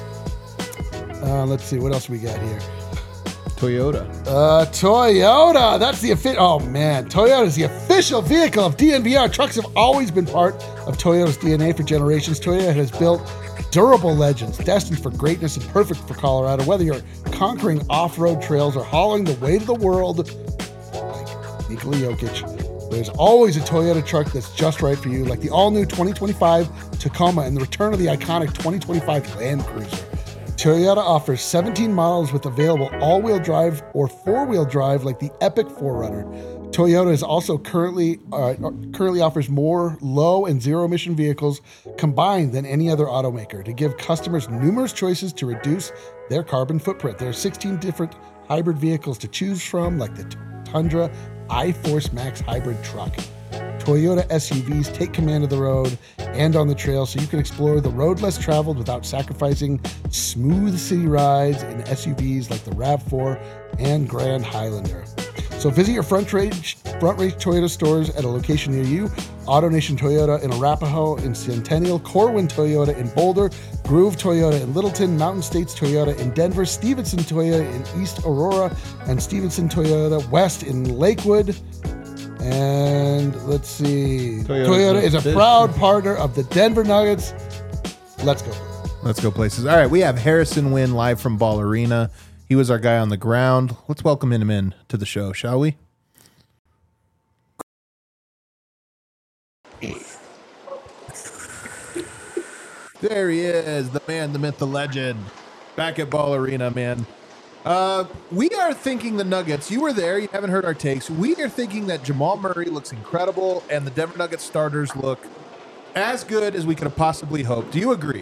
Uh, let's see, what else we got here? Toyota. Uh, Toyota. That's the official. Oh man, Toyota is the official vehicle of D N V R. Trucks have always been part of Toyota's D N A for generations. Toyota has built durable legends destined for greatness and perfect for Colorado. Whether you're conquering off-road trails or hauling the weight of the world, like Nikola Jokic, there's always a Toyota truck that's just right for you, like the all-new twenty twenty-five Tacoma and the return of the iconic twenty twenty-five Land Cruiser. Toyota offers seventeen models with available all-wheel drive or four-wheel drive like the Epic four runner. Toyota is also currently uh, currently offers more low and zero emission vehicles combined than any other automaker to give customers numerous choices to reduce their carbon footprint. There are sixteen different hybrid vehicles to choose from, like the Tundra iForce Max hybrid truck. Toyota S U Vs take command of the road and on the trail so you can explore the road less traveled without sacrificing smooth city rides in S U Vs like the RAV four and Grand Highlander. So visit your front range, front range Toyota stores at a location near you. AutoNation Toyota in Arapahoe, in Centennial, Corwin Toyota in Boulder, Groove Toyota in Littleton, Mountain States Toyota in Denver, Stevenson Toyota in East Aurora, and Stevenson Toyota West in Lakewood. And let's see. Toyota's Toyota is a this. proud partner of the Denver Nuggets. Let's go. Let's go places. All right, we have Harrison Wynn live from Ball Arena. He was our guy on the ground. Let's welcome him in to the show, shall we? There he is, the man, the myth, the legend, back at Ball Arena, man. Uh, we are thinking the Nuggets. You were there. You haven't heard our takes. We are thinking that Jamal Murray looks incredible, and the Denver Nuggets starters look as good as we could have possibly hoped. Do you agree?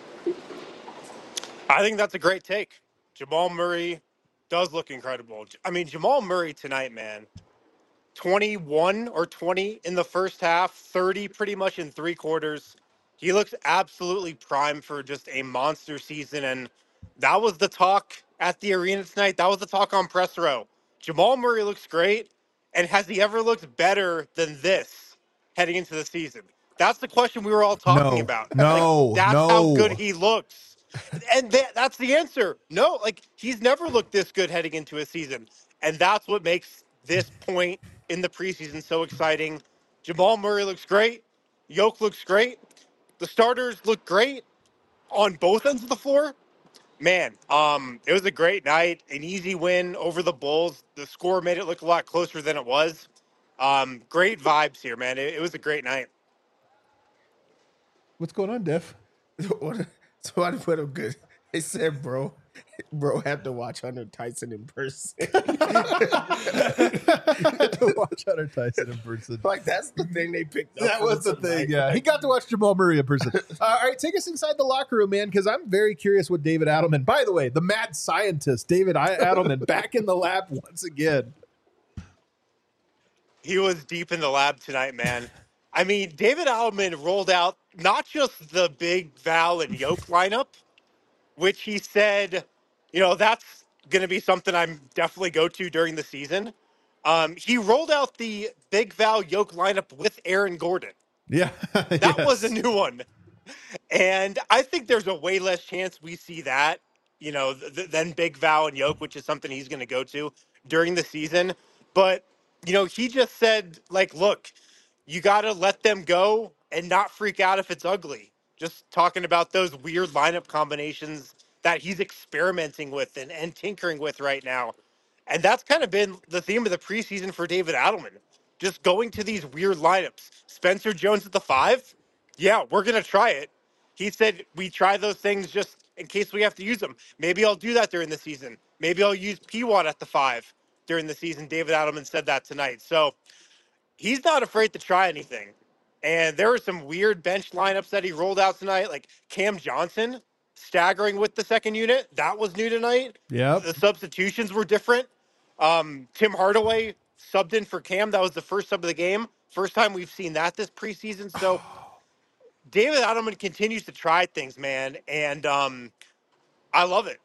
I think that's a great take. Jamal Murray does look incredible. I mean, Jamal Murray tonight, man, twenty-one or twenty in the first half, thirty pretty much in three quarters. He looks absolutely primed for just a monster season. And that was the talk at the arena tonight. That was the talk on press row. Jamal Murray looks great. And has he ever looked better than this heading into the season? That's the question we were all talking No, about. Like, no, that's how good no. he looks. And that, that's the answer. No, like, he's never looked this good heading into a season. And that's what makes this point in the preseason so exciting. Jamal Murray looks great. Yoke looks great. The starters look great on both ends of the floor. Man, um, it was a great night, an easy win over the Bulls. The score made it look a lot closer than it was. Um, great vibes here, man. It, it was a great night. What's going on, Diff? So I put him good. They said, bro, bro had to watch Hunter Tyson in person. To watch Hunter Tyson in person. Like, that's the thing they picked up. That was the thing, yeah. He got to watch Jamal Murray in person. Uh, all right, take us inside the locker room, man, because I'm very curious what David Adelman, by the way, the mad scientist, David Adelman, back in the lab once again. He was deep in the lab tonight, man. I mean, David Adelman rolled out not just the big Val and Yoke lineup, which he said, you know, that's going to be something I'm definitely go to during the season. Um, he rolled out the big Val Yoke lineup with Aaron Gordon. Yeah. That Yes. was a new one. And I think there's a way less chance we see that, you know, th- than Big Val and Yoke, which is something he's going to go to during the season. But, you know, he just said, like, look, you got to let them go and not freak out if it's ugly. Just talking about those weird lineup combinations that he's experimenting with and, and tinkering with right now. And that's kind of been the theme of the preseason for David Adelman. Just going to these weird lineups. Spencer Jones at the five? Yeah, we're going to try it. He said we try those things just in case we have to use them. Maybe I'll do that during the season. Maybe I'll use P one at the five during the season. David Adelman said that tonight. So he's not afraid to try anything. And there were some weird bench lineups that he rolled out tonight, like Cam Johnson staggering with the second unit. That was new tonight. Yep. The substitutions were different. Um, Tim Hardaway subbed in for Cam. That was the first sub of the game. First time we've seen that this preseason. So David Adelman continues to try things, man. And um, I love it.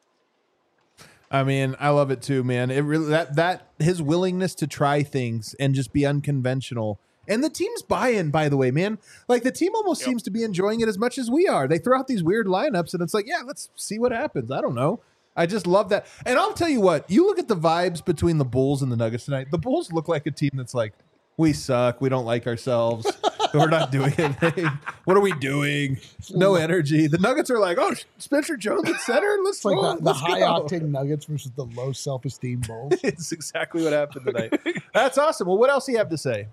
I mean, I love it too, man. It really that that his willingness to try things and just be unconventional. And the team's buy-in, by the way, man. Like the team almost Yep. seems to be enjoying it as much as we are. They throw out these weird lineups and it's like, yeah, let's see what happens. I don't know. I just love that. And I'll tell you what, you look at the vibes between the Bulls and the Nuggets tonight. The Bulls look like a team that's like, we suck. We don't like ourselves. We're not doing anything. What are we doing? No energy. The Nuggets are like, oh, Spencer Jones at center. Let's It's like go. the, the Let's high go. octane Nuggets versus the low self esteem Bulls. It's exactly what happened tonight. That's awesome. Well, what else do you have to say?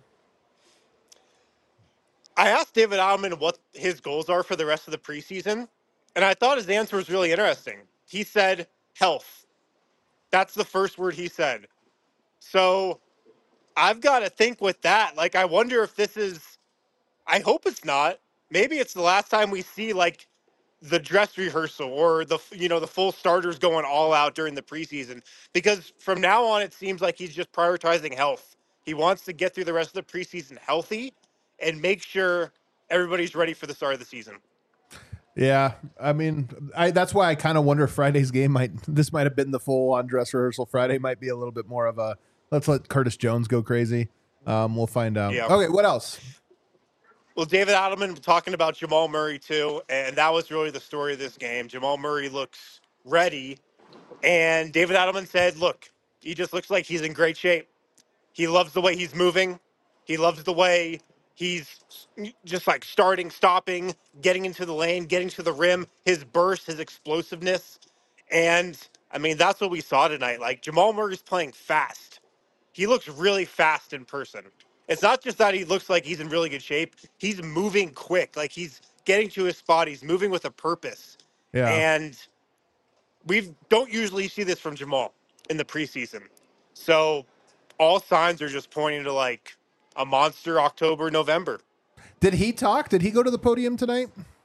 I asked David Adelman what his goals are for the rest of the preseason, and I thought his answer was really interesting. He said health. That's the first word he said. So I've got to think with that. Like, I wonder if this is, I hope it's not. Maybe it's the last time we see like the dress rehearsal or the, you know, the full starters going all out during the preseason, because from now on, it seems like he's just prioritizing health. He wants to get through the rest of the preseason healthy and make sure everybody's ready for the start of the season. Yeah, I mean, I that's why I kind of wonder if Friday's game might this might have been the full on dress rehearsal. Friday might be a little bit more of a let's let Curtis Jones go crazy. Um, we'll find out. Yeah. Okay, what else? Well, David Adelman talking about Jamal Murray too, and that was really the story of this game. Jamal Murray looks ready, and David Adelman said, look, he just looks like he's in great shape. He loves the way he's moving. He loves the way he's just like starting, stopping, getting into the lane, getting to the rim, his burst, his explosiveness. And I mean, that's what we saw tonight. Like, Jamal Murray's playing fast. He looks really fast in person. It's not just that he looks like he's in really good shape. He's moving quick. Like, he's getting to his spot. He's moving with a purpose. Yeah. And we don't usually see this from Jamal in the preseason. So all signs are just pointing to like a monster October, November. Did he talk? Did he go to the podium tonight?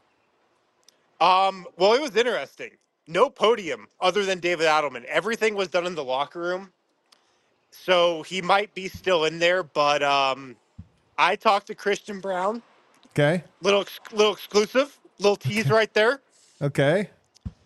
Um, well, it was interesting. No podium other than David Adelman. Everything was done in the locker room. So he might be still in there, but um, I talked to Christian Brown. Okay. Little ex- little exclusive, little tease right there. Okay.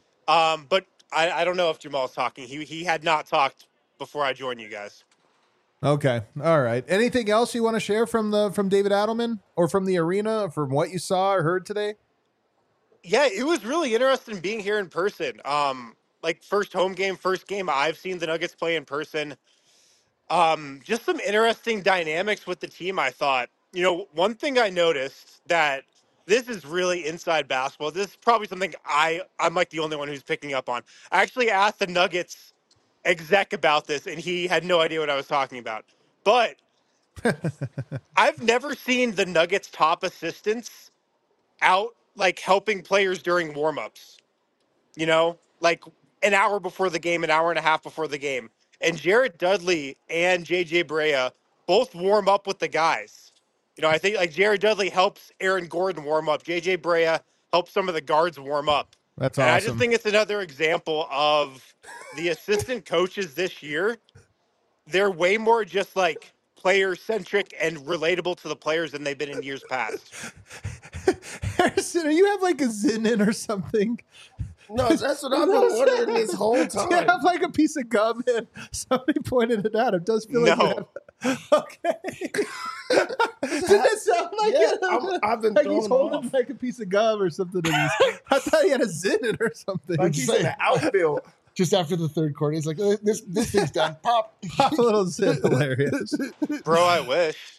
Um, but I, I don't know if Jamal's talking. He he had not talked before I joined you guys. Okay. All right. Anything else you want to share from the from David Adelman or from the arena, from what you saw or heard today? Yeah, it was really interesting being here in person. Um, like first home game, first game I've seen the Nuggets play in person. Um, just some interesting dynamics with the team, I thought. You know, one thing I noticed that this is really inside basketball. This is probably something I, I'm like the only one who's picking up on. I actually asked the Nuggets exec about this, and he had no idea what I was talking about. But I've never seen the Nuggets top assistants out like helping players during warmups. You know, like an hour before the game, an hour and a half before the game. And Jared Dudley and J J Barea both warm up with the guys. You know, I think like Jared Dudley helps Aaron Gordon warm up. J J Barea helps some of the guards warm up. That's and awesome. I just think it's another example of the assistant coaches this year. They're way more just like player centric and relatable to the players than they've been in years past. Harrison, are you have like a Zin in or something? No, that's what I've been wondering this whole time. Do you have like a piece of gum in? Somebody pointed it out. It does feel like No. you have... Okay. Did that sound like Yeah, it? I'm- I've been like he's thrown holding off. like a piece of gum or something. In his... I thought he had a Zin in or something. Like he's in the outfield. Just after the third quarter, he's like, "Uh, "This this thing's done." Pop. Pop a little Zin. Hilarious. Bro, I wish.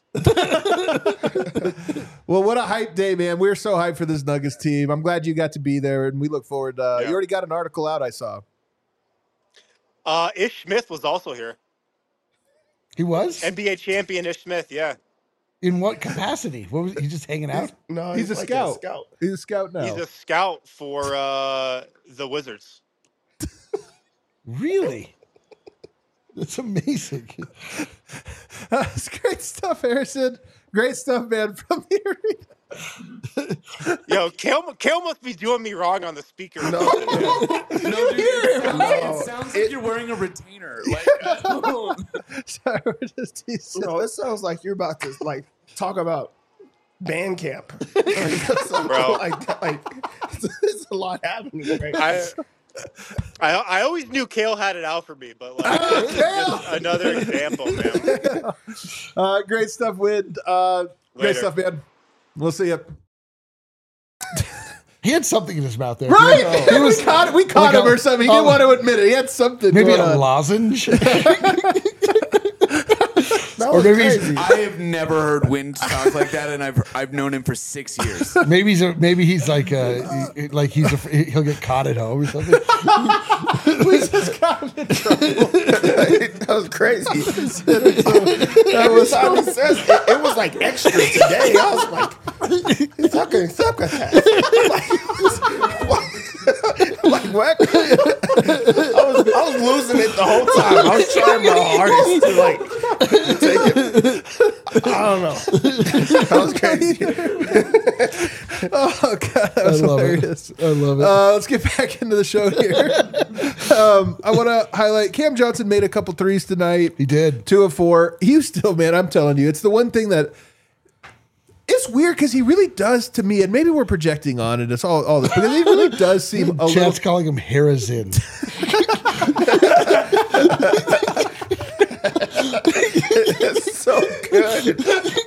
Well, what a hype day, man. We're so hyped for this Nuggets team. I'm glad you got to be there, and we look forward. Uh, Yeah. You already got an article out, I saw. Uh, Ish Smith was also here. He was N B A champion Ish Smith, yeah. in what capacity? What was he just hanging out? No, He's, a, like scout. a scout. He's a scout now. He's a scout for uh, the Wizards. Really? That's amazing. Uh, it's great stuff, Harrison. Great stuff, man, from the arena. Yo, Kale, Kale must be doing me wrong on the speaker. No, No, dude, it, sounds, No. it sounds like you're wearing a retainer. Like, Sorry, we're just teasing. no, it sounds like you're about to like talk about band camp. Bro. like, like there's a lot happening right now. I, I I always knew Kale had it out for me, but like this is just another example, man. Uh, great stuff, Wid. Uh, great Later. stuff, man. We'll see you. He had something in his mouth there. Right? He was we caught, we caught like him a- or something. He didn't oh. want to admit it. He had something maybe going a on. lozenge. That Or was maybe he's- crazy. I have never heard Wind talk like that, and I've I've known him for six years. maybe he's a, maybe he's like uh he- like he's a, he'll get caught at home or something. We just got him in trouble. that was crazy. Every time he says it, it was like extra today. I was like, sucker, succotash. I'm like, what? I was, I was losing it the whole time. I was trying my hardest to like take it. I don't know. That was crazy. Oh, God. That was I love hilarious. it. I love it. Uh, let's get back into the show here. um, I want to highlight Cam Johnson made a couple threes tonight. He did. Two of four. He still, man, I'm telling you, it's the one thing that it's weird because he really does to me, and maybe we're projecting on it. It's all, all this because he really does seem a little. Chad's calling him Harazin. It's so good.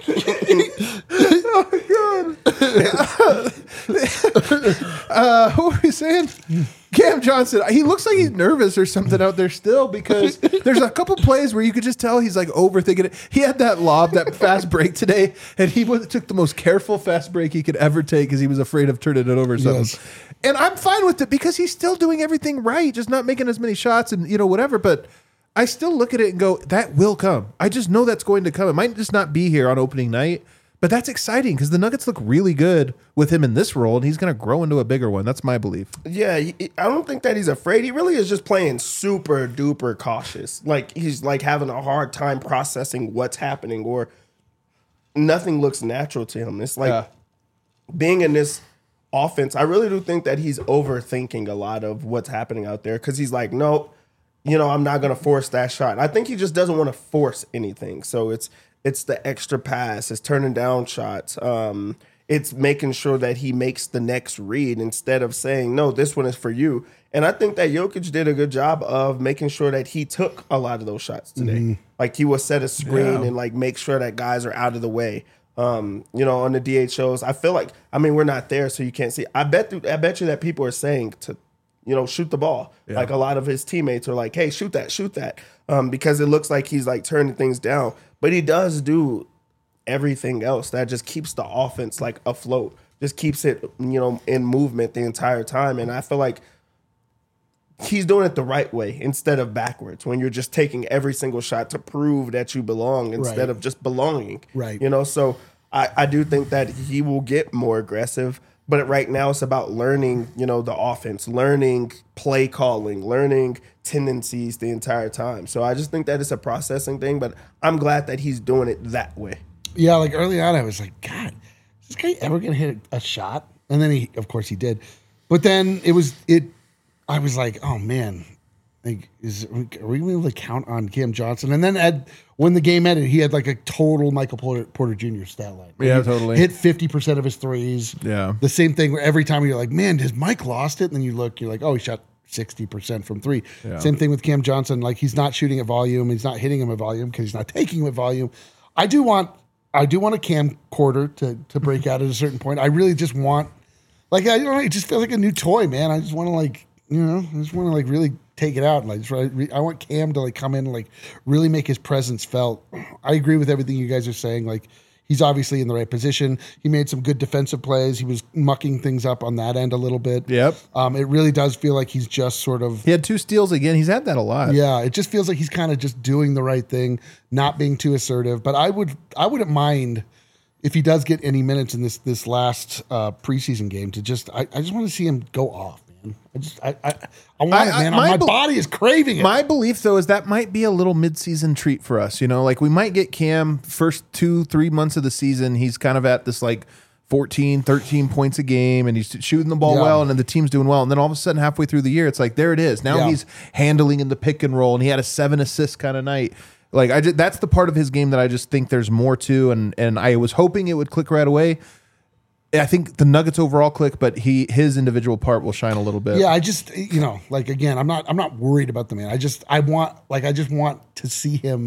Uh, what were we saying? Cam Johnson, he looks like he's nervous or something out there still because there's a couple plays where you could just tell he's like overthinking it. He had that lob, that fast break today, and he was, took the most careful fast break he could ever take because he was afraid of turning it over or something. Yes. And I'm fine with it because he's still doing everything right, just not making as many shots and, you know, whatever. But I still look at it and go, that will come. I just know that's going to come. It might just not be here on opening night. But that's exciting because the Nuggets look really good with him in this role, and he's going to grow into a bigger one. That's my belief. Yeah, he, I don't think that he's afraid. He really is just playing super duper cautious. Like he's like having a hard time processing what's happening, or nothing looks natural to him. It's like Yeah. being in this offense. I really do think that he's overthinking a lot of what's happening out there because he's like, nope, you know, I'm not going to force that shot. I think he just doesn't want to force anything. So it's it's the extra pass, it's turning down shots. Um, it's making sure that he makes the next read instead of saying, no, this one is for you. And I think that Jokic did a good job of making sure that he took a lot of those shots today. Mm-hmm. Like he will set a screen yeah. and like make sure that guys are out of the way. Um, you know, on the D H Os, I feel like, I mean, we're not there, so you can't see. I bet, th- I bet you that people are saying to, you know, shoot the ball. Yeah. Like a lot of his teammates are like, hey, shoot that, shoot that. Um, because it looks like he's like turning things down. But he does do everything else that just keeps the offense like afloat, just keeps it, you know, in movement the entire time. And I feel like he's doing it the right way instead of backwards, when you're just taking every single shot to prove that you belong instead right. of just belonging. Right. You know, so I, I do think that he will get more aggressive, but right now it's about learning, you know, the offense, learning play calling, learning tendencies the entire time. So I just think that it's a processing thing, but I'm glad that he's doing it that way. Yeah, like early on I was like, God, is this guy ever going to hit a shot? And then he, of course he did. But then it was, it, I was like, oh man, like, is are we able to count on Cam Johnson? And then at, when the game ended, he had like a total Michael Porter, Porter Junior stat line. Yeah, he totally. Hit fifty percent of his threes. Yeah. The same thing where every time you're like, man, has Mike lost it? And then you look, you're like, oh, he shot sixty percent from three. Yeah. Same thing with Cam Johnson. Like he's not shooting at volume. He's not hitting him at volume because he's not taking him at volume. I do want, I do want a Cam quarter to to break out at a certain point. I really just want, like, I don't know, it just feels like a new toy, man. I just want to like, you know, I just want to like really take it out and like just re- I want Cam to like come in and like really make his presence felt. I agree with everything you guys are saying. Like he's obviously in the right position. He made some good defensive plays. He was mucking things up on that end a little bit. Yep. Um, it really does feel like he's just sort of. He had two steals again. He's had that a lot. Yeah, it just feels like he's kind of just doing the right thing, not being too assertive. But I would, I wouldn't mind if he does get any minutes in this this last uh, preseason game to just. I, I just want to see him go off. I just, I, I, I want I, it, man. My, my be- body is craving it. My belief, though, is that might be a little mid-season treat for us. You know, like we might get Cam first two, three months of the season. He's kind of at this like fourteen, thirteen points a game, and he's shooting the ball yeah. well, and then the team's doing well. And then all of a sudden, halfway through the year, it's like there it is. Now yeah. he's handling in the pick and roll, and he had a seven assist kind of night. Like I, just, that's the part of his game that I just think there's more to, and and I was hoping it would click right away. I think the Nuggets overall click, but he his individual part will shine a little bit. Yeah, I just you know, like again, I'm not I'm not worried about the man. I just I want like I just want to see him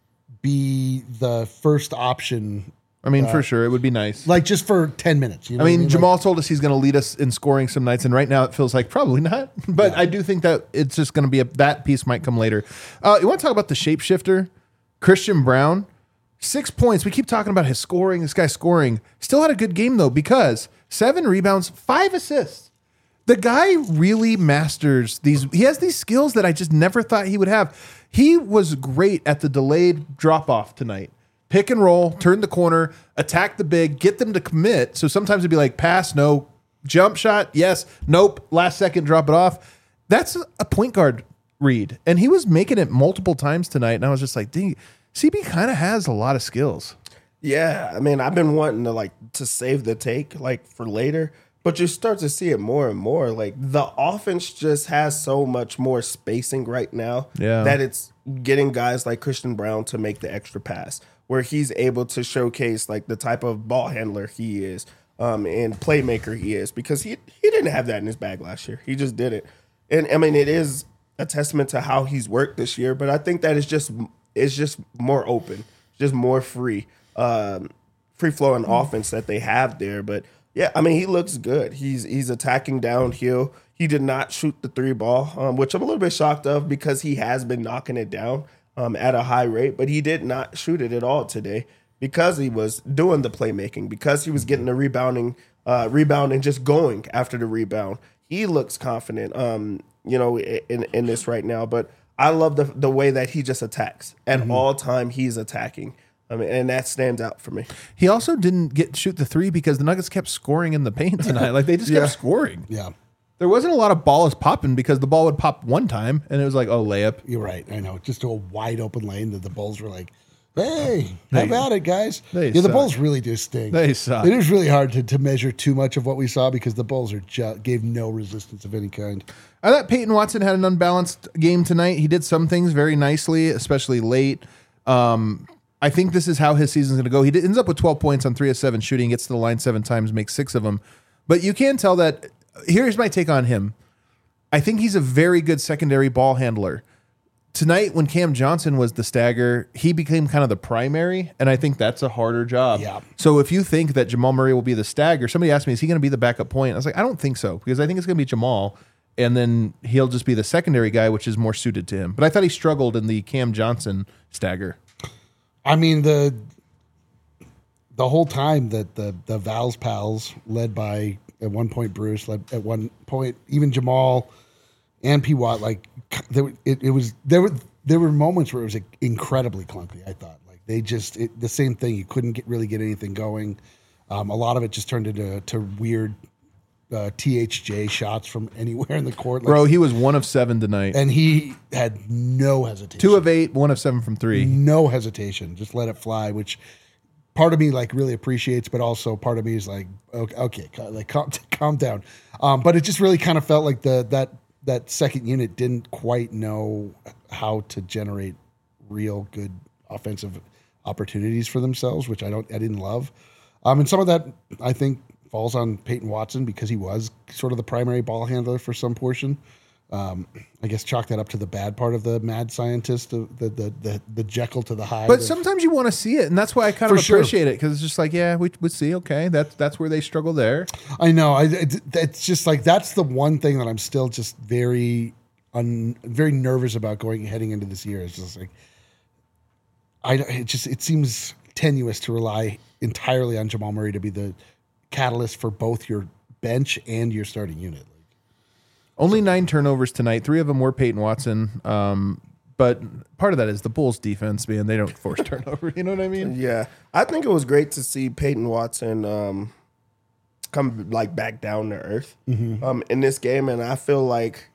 be the first option. I mean, uh, for sure, it would be nice. Like just for ten minutes. You know I mean, I mean? Jamal like, told us he's going to lead us in scoring some nights, and right now it feels like probably not. But yeah. I do think that it's just going to be a that piece might come later. Uh, you want to talk about the shapeshifter, Christian Braun? Six points. We keep talking about his scoring. This guy scoring. Still had a good game, though, because seven rebounds, five assists. The guy really masters these. He has these skills that I just never thought he would have. He was great at the delayed drop-off tonight. Pick and roll, turn the corner, attack the big, get them to commit. So sometimes it'd be like pass, no. Jump shot, yes. Nope. Last second, drop it off. That's a point guard read. And he was making it multiple times tonight, and I was just like, dang, C B kind of has a lot of skills. Yeah, I mean, I've been wanting to like to save the take like for later, but you start to see it more and more. Like the offense just has so much more spacing right now yeah. that it's getting guys like Christian Braun to make the extra pass, where he's able to showcase like the type of ball handler he is um, and playmaker he is, because he he didn't have that in his bag last year. He just didn't. And I mean, it is a testament to how he's worked this year, but I think that it's just it's just more open, just more free. Um, free flowing offense that they have there. But yeah, I mean, he looks good. He's he's attacking downhill. He did not shoot the three ball, um, which I'm a little bit shocked of because he has been knocking it down um, at a high rate, but he did not shoot it at all today because he was doing the playmaking, because he was getting the rebounding, uh, rebound and just going after the rebound. He looks confident, um, you know, in, in this right now. But I love the the way that he just attacks. At mm-hmm. all time, he's attacking. I mean, and that stands out for me. He also didn't get shoot the three because the Nuggets kept scoring in the paint tonight. Like they just yeah. kept scoring. Yeah. There wasn't a lot of balls popping because the ball would pop one time and it was like, oh, layup. You're right. I know. Just to a wide open lane that the Bulls were like, hey, They- how about it, guys? they yeah, the suck. Bulls really do stink. They suck. It is really hard to, to measure too much of what we saw because the Bulls are ju- gave no resistance of any kind. I thought Peyton Watson had an unbalanced game tonight. He did some things very nicely, especially late. Um, I think this is how his season's going to go. He ends up with twelve points on three of seven shooting, gets to the line seven times, makes six of them. But you can tell that, here's my take on him. I think he's a very good secondary ball handler. Tonight, when Cam Johnson was the stagger, he became kind of the primary, and I think that's a harder job. Yeah. So if you think that Jamal Murray will be the stagger, somebody asked me, is he going to be the backup point? I was like, I don't think so, because I think it's going to be Jamal, and then he'll just be the secondary guy, which is more suited to him. But I thought he struggled in the Cam Johnson stagger. I mean, the the whole time that the the Val's pals, led by at one point Bruce, led at one point even Jamal and P. Watt, like there, it, it was there were there were moments where it was incredibly clunky. I thought like they just it, the same thing. You couldn't get really get anything going. Um, a lot of it just turned into to weird uh, T H J shots from anywhere in the court. Like, Bro, he was one of seven tonight. and he had no hesitation. Two of eight, one of seven from three. No hesitation. Just let it fly, which part of me like really appreciates, but also part of me is like, okay, okay like calm, calm down. Um, but it just really kind of felt like the that that second unit didn't quite know how to generate real good offensive opportunities for themselves, which I don't, I didn't love. Um, and some of that I think falls on Peyton Watson because he was sort of the primary ball handler for some portion. Um, I guess chalk that up to the bad part of the mad scientist, the the the, the, the Jekyll to the Hyde. But of- sometimes you want to see it, and that's why I kind of For sure. appreciate it, because it's just like, yeah, we would see, okay, that's that's where they struggle there. I know. I, it, it's just like that's the one thing that I'm still just very, un, very nervous about going heading into this year. It's just like, I it just it seems tenuous to rely entirely on Jamal Murray to be the catalyst for both your bench and your starting unit. Only nine turnovers tonight. Three of them were Peyton Watson. Um, but part of that is the Bulls' defense, man. They don't force turnover. You know what I mean? Yeah, I think it was great to see Peyton Watson um, come like back down to earth um, in this game, and I feel like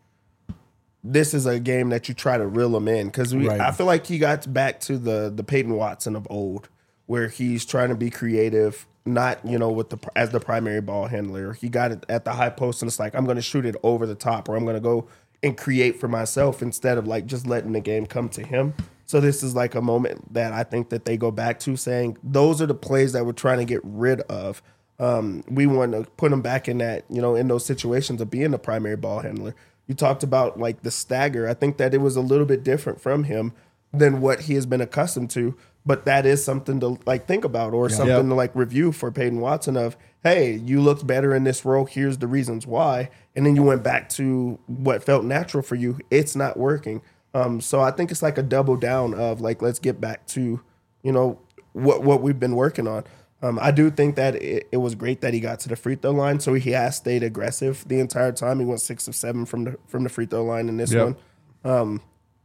this is a game that you try to reel him in because we. Right. I feel like he got back to the the Peyton Watson of old, where he's trying to be creative, not you know with the as the primary ball handler. He got it at the high post, and it's like I'm going to shoot it over the top, or I'm going to go and create for myself instead of like just letting the game come to him. So this is like a moment that I think that they go back to saying those are the plays that we're trying to get rid of. Um, we want to put him back in that, you know, in those situations of being the primary ball handler. You talked about like the stagger. I think that it was a little bit different from him than what he has been accustomed to. But that is something to like think about or something Yep. to like review for Peyton Watson of, hey, you looked better in this role. Here's the reasons why. And then you went back to what felt natural for you. It's not working. Um, so I think it's like a double down of like, let's get back to, you know, what, what we've been working on. Um, I do think that it, it was great that he got to the free throw line. So he has stayed aggressive the entire time. He went six of seven from the, from the free throw line in this Yep. one. Um,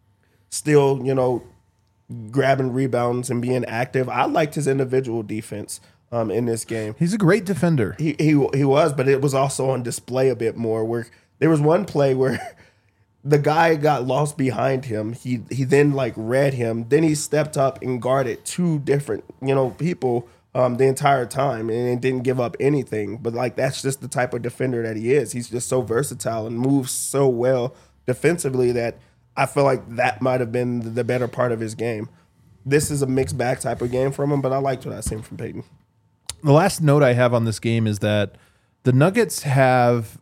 still, you know, grabbing rebounds and being active. I liked his individual defense um, in this game. He's a great defender. He, he he was, but it was also on display a bit more. Where there was one play where the guy got lost behind him. He he then like read him. Then he stepped up and guarded two different you know people um, the entire time and didn't give up anything. But like that's just the type of defender that he is. He's just so versatile and moves so well defensively that I feel like that might have been the better part of his game. This is a mixed bag type of game from him, but I liked what I seen from Peyton. The last note I have on this game is that the Nuggets have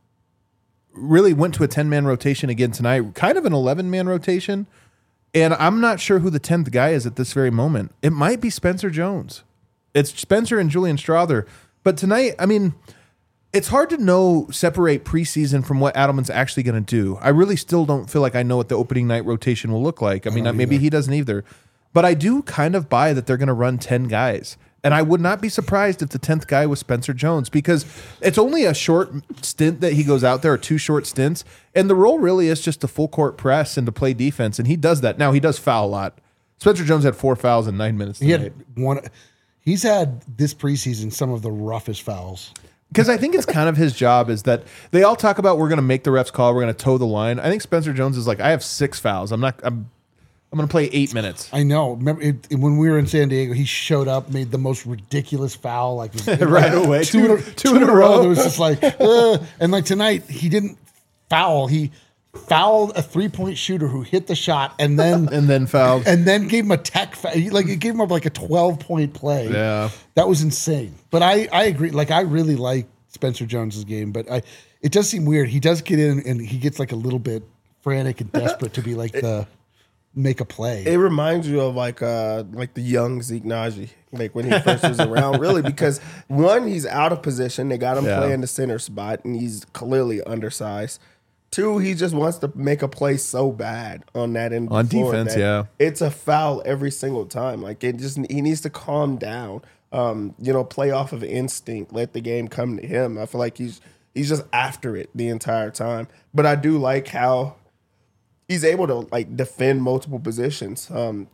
really went to a ten-man rotation again tonight, kind of an eleven-man rotation, and I'm not sure who the tenth guy is at this very moment. It might be Spencer Jones. It's Spencer and Julian Strother. But tonight, I mean, it's hard to know, separate preseason from what Adelman's actually going to do. I really still don't feel like I know what the opening night rotation will look like. I mean, maybe he doesn't either. But I do kind of buy that they're going to run ten guys. And I would not be surprised if the tenth guy was Spencer Jones because it's only a short stint that he goes out there, or two short stints. And the role really is just to full court press and to play defense. And he does that. Now, he does foul a lot. Spencer Jones had four fouls in nine minutes He tonight. had one. He's had this preseason some of the roughest fouls. Because I think it's kind of his job is that they all talk about we're going to make the refs call, we're going to toe the line. I think Spencer Jones is like, I have six fouls. I'm not. I'm. I'm going to play eight minutes. I know. Remember it, it- when we were in San Diego, he showed up, made the most ridiculous foul, like Right away. two, Two- in a, two two in in a a row. row. It was just like, uh, and like tonight, he didn't foul. He fouled a three point shooter who hit the shot, and then And then fouled. and then gave him a tech. Fa- he, like it gave him up like a twelve point play. Yeah. that was insane. But I I agree. Like I really like Spencer Jones's game, but I it does seem weird. He does get in and he gets like a little bit frantic and desperate to be like the make a play. It reminds you of like uh like the young Zeke Naji, like when he first was around, really, because one, he's out of position. They got him Yeah. playing the center spot, and he's clearly undersized. Two, he just wants to make a play so bad on that end of On the floor defense, that yeah. it's a foul every single time. Like it just he needs to calm down. Um, you know, play off of instinct. Let the game come to him. I feel like he's he's just after it the entire time. But I do like how he's able to like defend multiple positions. Um,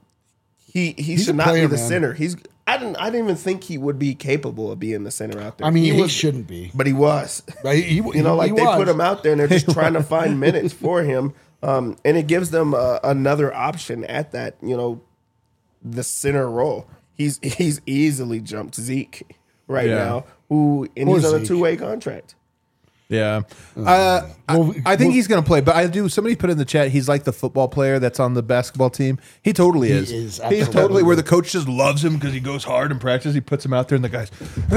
he he He's should a not player, be the man. center. He's I didn't I didn't even think he would be capable of being the center out there. I mean, he, was, shouldn't be. but he was. Right? He, You know, like they put him out there and they're just trying to find minutes for him, um, and it gives them uh, another option at that. You know, the center role. He's he's easily jumped Zeke right Yeah. now, who and Poor he's on a Zeke. two way contract. Yeah. Uh, Well, I, I think well- he's going to play, but I do. Somebody put in the chat, he's like the football player that's on the basketball team. He totally is. is, He's absolutely. totally where the coach just loves him because he goes hard in practice. He puts him out there, and the guys,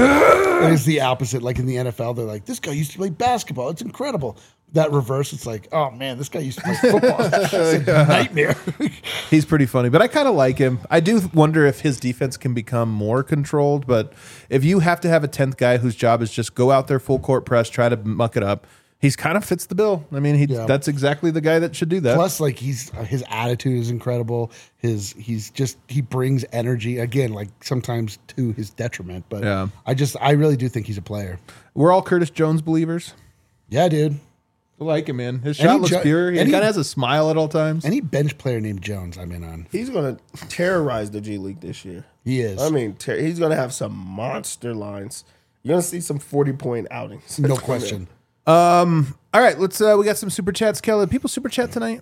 It's the opposite. Like in the N F L, they're like, this guy used to play basketball. It's incredible. That reverse, it's like, oh man, this guy used to play football. It's a nightmare. he's pretty funny. But I kind of like him. I do wonder if his defense can become more controlled. But if you have to have a tenth guy whose job is just go out there full court press, try to muck it up, he's kind of fits the bill. I mean, he Yeah. that's exactly the guy that should do that. Plus, like he's his attitude is incredible. His he's just he brings energy again, like sometimes to his detriment. But Yeah. I just I really do think he's a player. We're all Curtis Jones believers. Yeah, dude. I like him, man. His Any shot looks Jo- pure. He any- kind of has a smile at all times. Any bench player named Jones, I'm in on. He's going to terrorize the G League this year. He is. I mean, ter- he's going to have some monster lines. You're going to see some forty point outings. No question. All right, let's. Uh, we got some super chats, Kelly. People super chat tonight.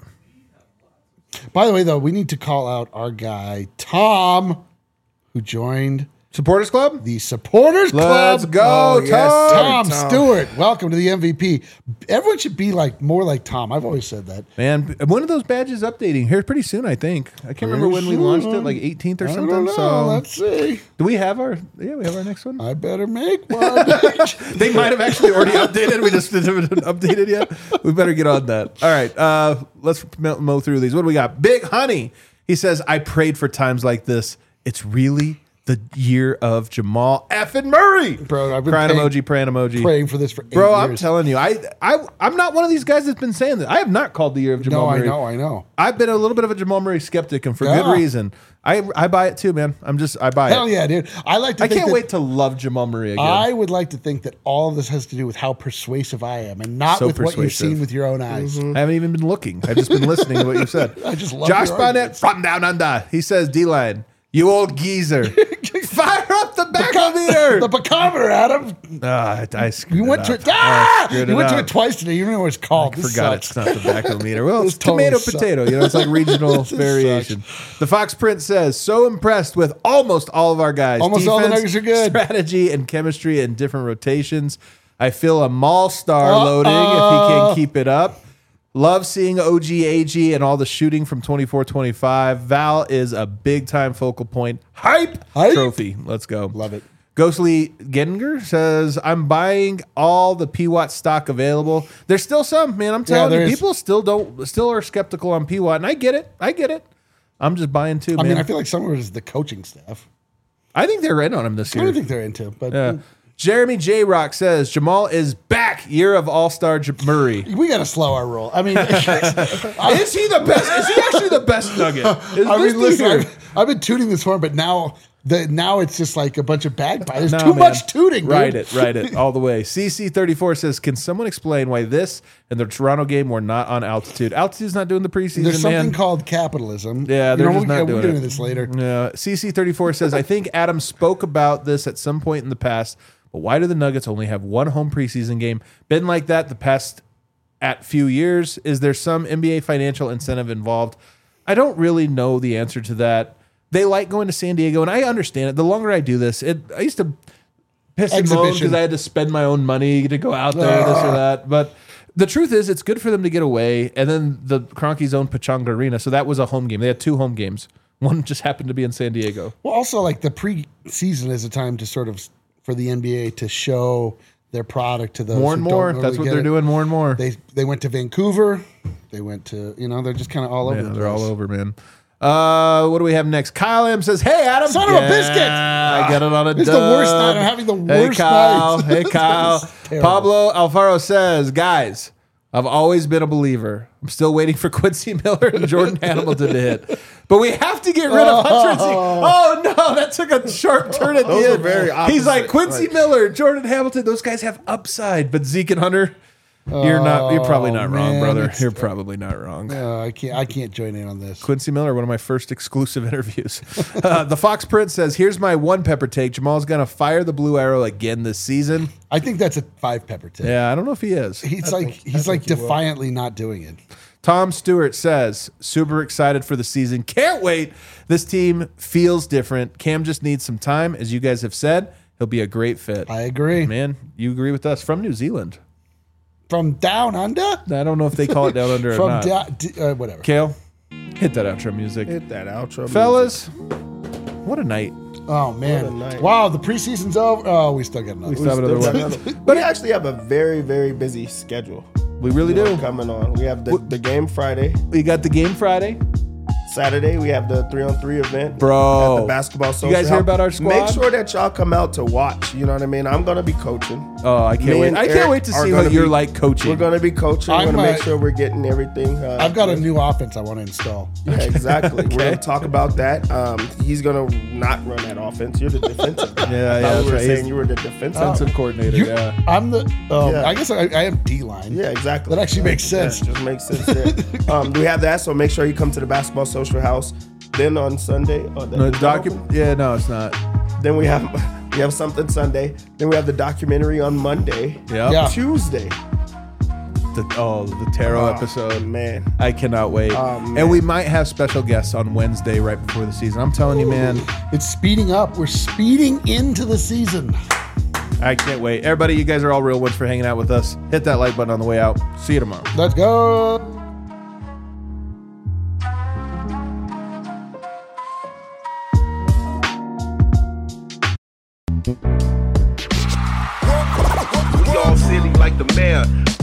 By the way, though, we need to call out our guy Tom, who joined Supporters Club. the Supporters Club. Let's go, Oh, Tom. yes, Tom, Tom. Stewart, welcome to the M V P. Everyone should be like more like Tom. I've always said that. Man, one of those badges updating here pretty soon. I think. I can't remember when we launched it, like eighteenth or I something. don't know. So, Let's see. do we have our? Yeah, we have our next one. I better make one. They might have actually already updated. We just haven't updated yet. We better get on that. All right, uh, let's mow mow through these. What do we got? Big Honey. He says, "I prayed for times like this. It's really the year of Jamal effing Murray." Bro, I've been crying paying- emoji, praying emoji. Praying for this for eight Bro, I'm years. telling you, I, I, I'm not one of these guys that's been saying that. I have not called the year of Jamal No, I Murray. know, I know. I've been a little bit of a Jamal Murray skeptic, and for Yeah. good reason. I, I buy it too, man. I'm just, I buy Hell it. yeah, dude. I like to I think can't that- wait to love Jamal Murray again. I would like to think that all of this has to do with how persuasive I am and not So with what you've persuasive. seen with your own eyes. I haven't even been looking. I've just been listening to what you said. I just love Josh your Bonnet arguments. from down under. He says, D-line, you old geezer. Fire up the bachometer. The bacometer, Adam. Ah, I, I screwed You went it to up. it. Ah! screwed You it went to up. it twice today. You don't know what it's called. I This forgot sucks. it's not the bachometer. Well, it's This totally tomato, sucks. potato. You know, it's like regional This variation. The Fox Print says, so impressed with almost all of our guys. Almost all the Defense, Nuggets are good. Strategy and chemistry and different rotations. I feel a mall star Uh-oh. loading if he can keep it up. Love seeing O G A G and all the shooting from twenty-four twenty-five. Val is a big time focal point. Hype, Hype. trophy. Let's go. Love it. Ghostly Gengar says, I'm buying all the P W A T stock available. There's still some, man. I'm telling there you, is. people still don't still are skeptical on P W A T, and I get it. I get it. I'm just buying too, I man. mean, I I, feel like some of it is the coaching staff. think they're in on him this I year. don't think they're into, but Yeah. Jeremy J. Rock says Jamal is back. Year of All Star J- Murray. we got to slow our roll. I mean, I, Is he the best? Is he actually the best Nugget? Is I this mean, the listen, year? I've, I've been tooting this horn, but now the now it's just like a bunch of bagpipes. There's No, too man. much tooting. Dude. Write it, write it all the way. C C thirty-four says, can someone explain why this and the Toronto game were not on altitude? Altitude's not doing the preseason, There's something man. called capitalism. Yeah, You they're know, just we, not yeah, doing we'll get it. into this later. Yeah, C C thirty-four says, I think Adam spoke about this at some point in the past, but why do the Nuggets only have one home preseason game? Been like that the past at few years. Is there some N B A financial incentive involved? I don't really know the answer to that. They like going to San Diego, and I understand it. The longer I do this, it I used to piss and moan Exhibition. because I had to spend my own money to go out there, this or that. But the truth is, it's good for them to get away. And then the Kroenke's own Pechanga Arena, so that was a home game. They had two home games. One just happened to be in San Diego. Well, also like the preseason is a time to sort of for the N B A to show their product to those More and who more. don't That's really what get they're it. doing. More and more. They they went to Vancouver. They went to you know they're just kind of all over. Yeah, the they're place. all over, man. Uh, what do we have next? Kyle M says, "Hey, Adam, Son of a biscuit! I got it on a It's the dub. worst night. I'm having the Hey, worst Kyle. night. Hey, Kyle. It's terrible. Pablo Alfaro says, guys, I've always been a believer. I'm still waiting for Quincy Miller and Jordan Hamilton to hit, but we have to get rid of Hunter and Zeke. Oh no, that took a sharp turn at Those the are end. very He's like opposite, Quincy like- Miller, Jordan Hamilton. Those guys have upside, but Zeke and Hunter. You're not. You're probably not Oh, wrong, man, brother. it's- You're probably not wrong. Uh, I can't I can't join in on this. Quincy Miller, one of my first exclusive interviews. Uh, the Fox Prince says, "Here's my one pepper take. Jamal's gonna fire the blue arrow again this season." I think that's a five pepper take. Yeah, I don't know if he is. He's like he's like defiantly not doing it. Tom Stewart says, "Super excited for the season. Can't wait. This team feels different. Cam just needs some time, as you guys have said. He'll be a great fit." I agree. Man, you agree with us? From New Zealand. From down under? I don't know if they call it down under or From not. down d- uh, whatever. Kale, hit that outro music, Hit that outro, fellas. What a night. Oh What a man! night. Wow, the preseason's over. Oh, we still got another. We still have another music. one. But we actually have a very, very busy schedule We really do. coming on. We have the, the game Friday. We got the game Friday. Saturday, we have the three on three event. Bro. At the basketball social. You guys hear House. about our squad? Make sure that y'all come out to watch. You know what I mean? I'm going to be coaching. Oh, I can't Me wait. and I can't Eric wait to are see gonna what you're be- like coaching. We're going to be coaching. We're I'm, going to make uh, sure we're getting everything. Uh, I've got a new offense I want to install. Yeah, exactly. Okay. We're going to talk about that. Um, he's going to not run that offense. You're the defensive guy. Yeah, I yeah, thought that's we were right. saying He's- you were the defensive. Defensive coordinator, You- yeah. I'm the. Um, Yeah. I guess I, I am D line. Yeah, exactly. That actually makes sense. Yeah, just makes sense there. um, we have that, so make sure you come to the basketball social house. Then on Sunday, oh, that- No, is that docu- open? yeah, no, it's not. Then we have we have something Sunday. Then we have the documentary on Monday. Yep. Yeah. Tuesday. The, oh, the tarot Oh, episode. man. I cannot wait. Oh, man. And we might have special guests on Wednesday right before the season. I'm telling you, man, It's speeding up. We're speeding into the season. I can't wait. Everybody, you guys are all real ones for hanging out with us. Hit that like button on the way out. See you tomorrow. Let's go. We all silly like the mayor.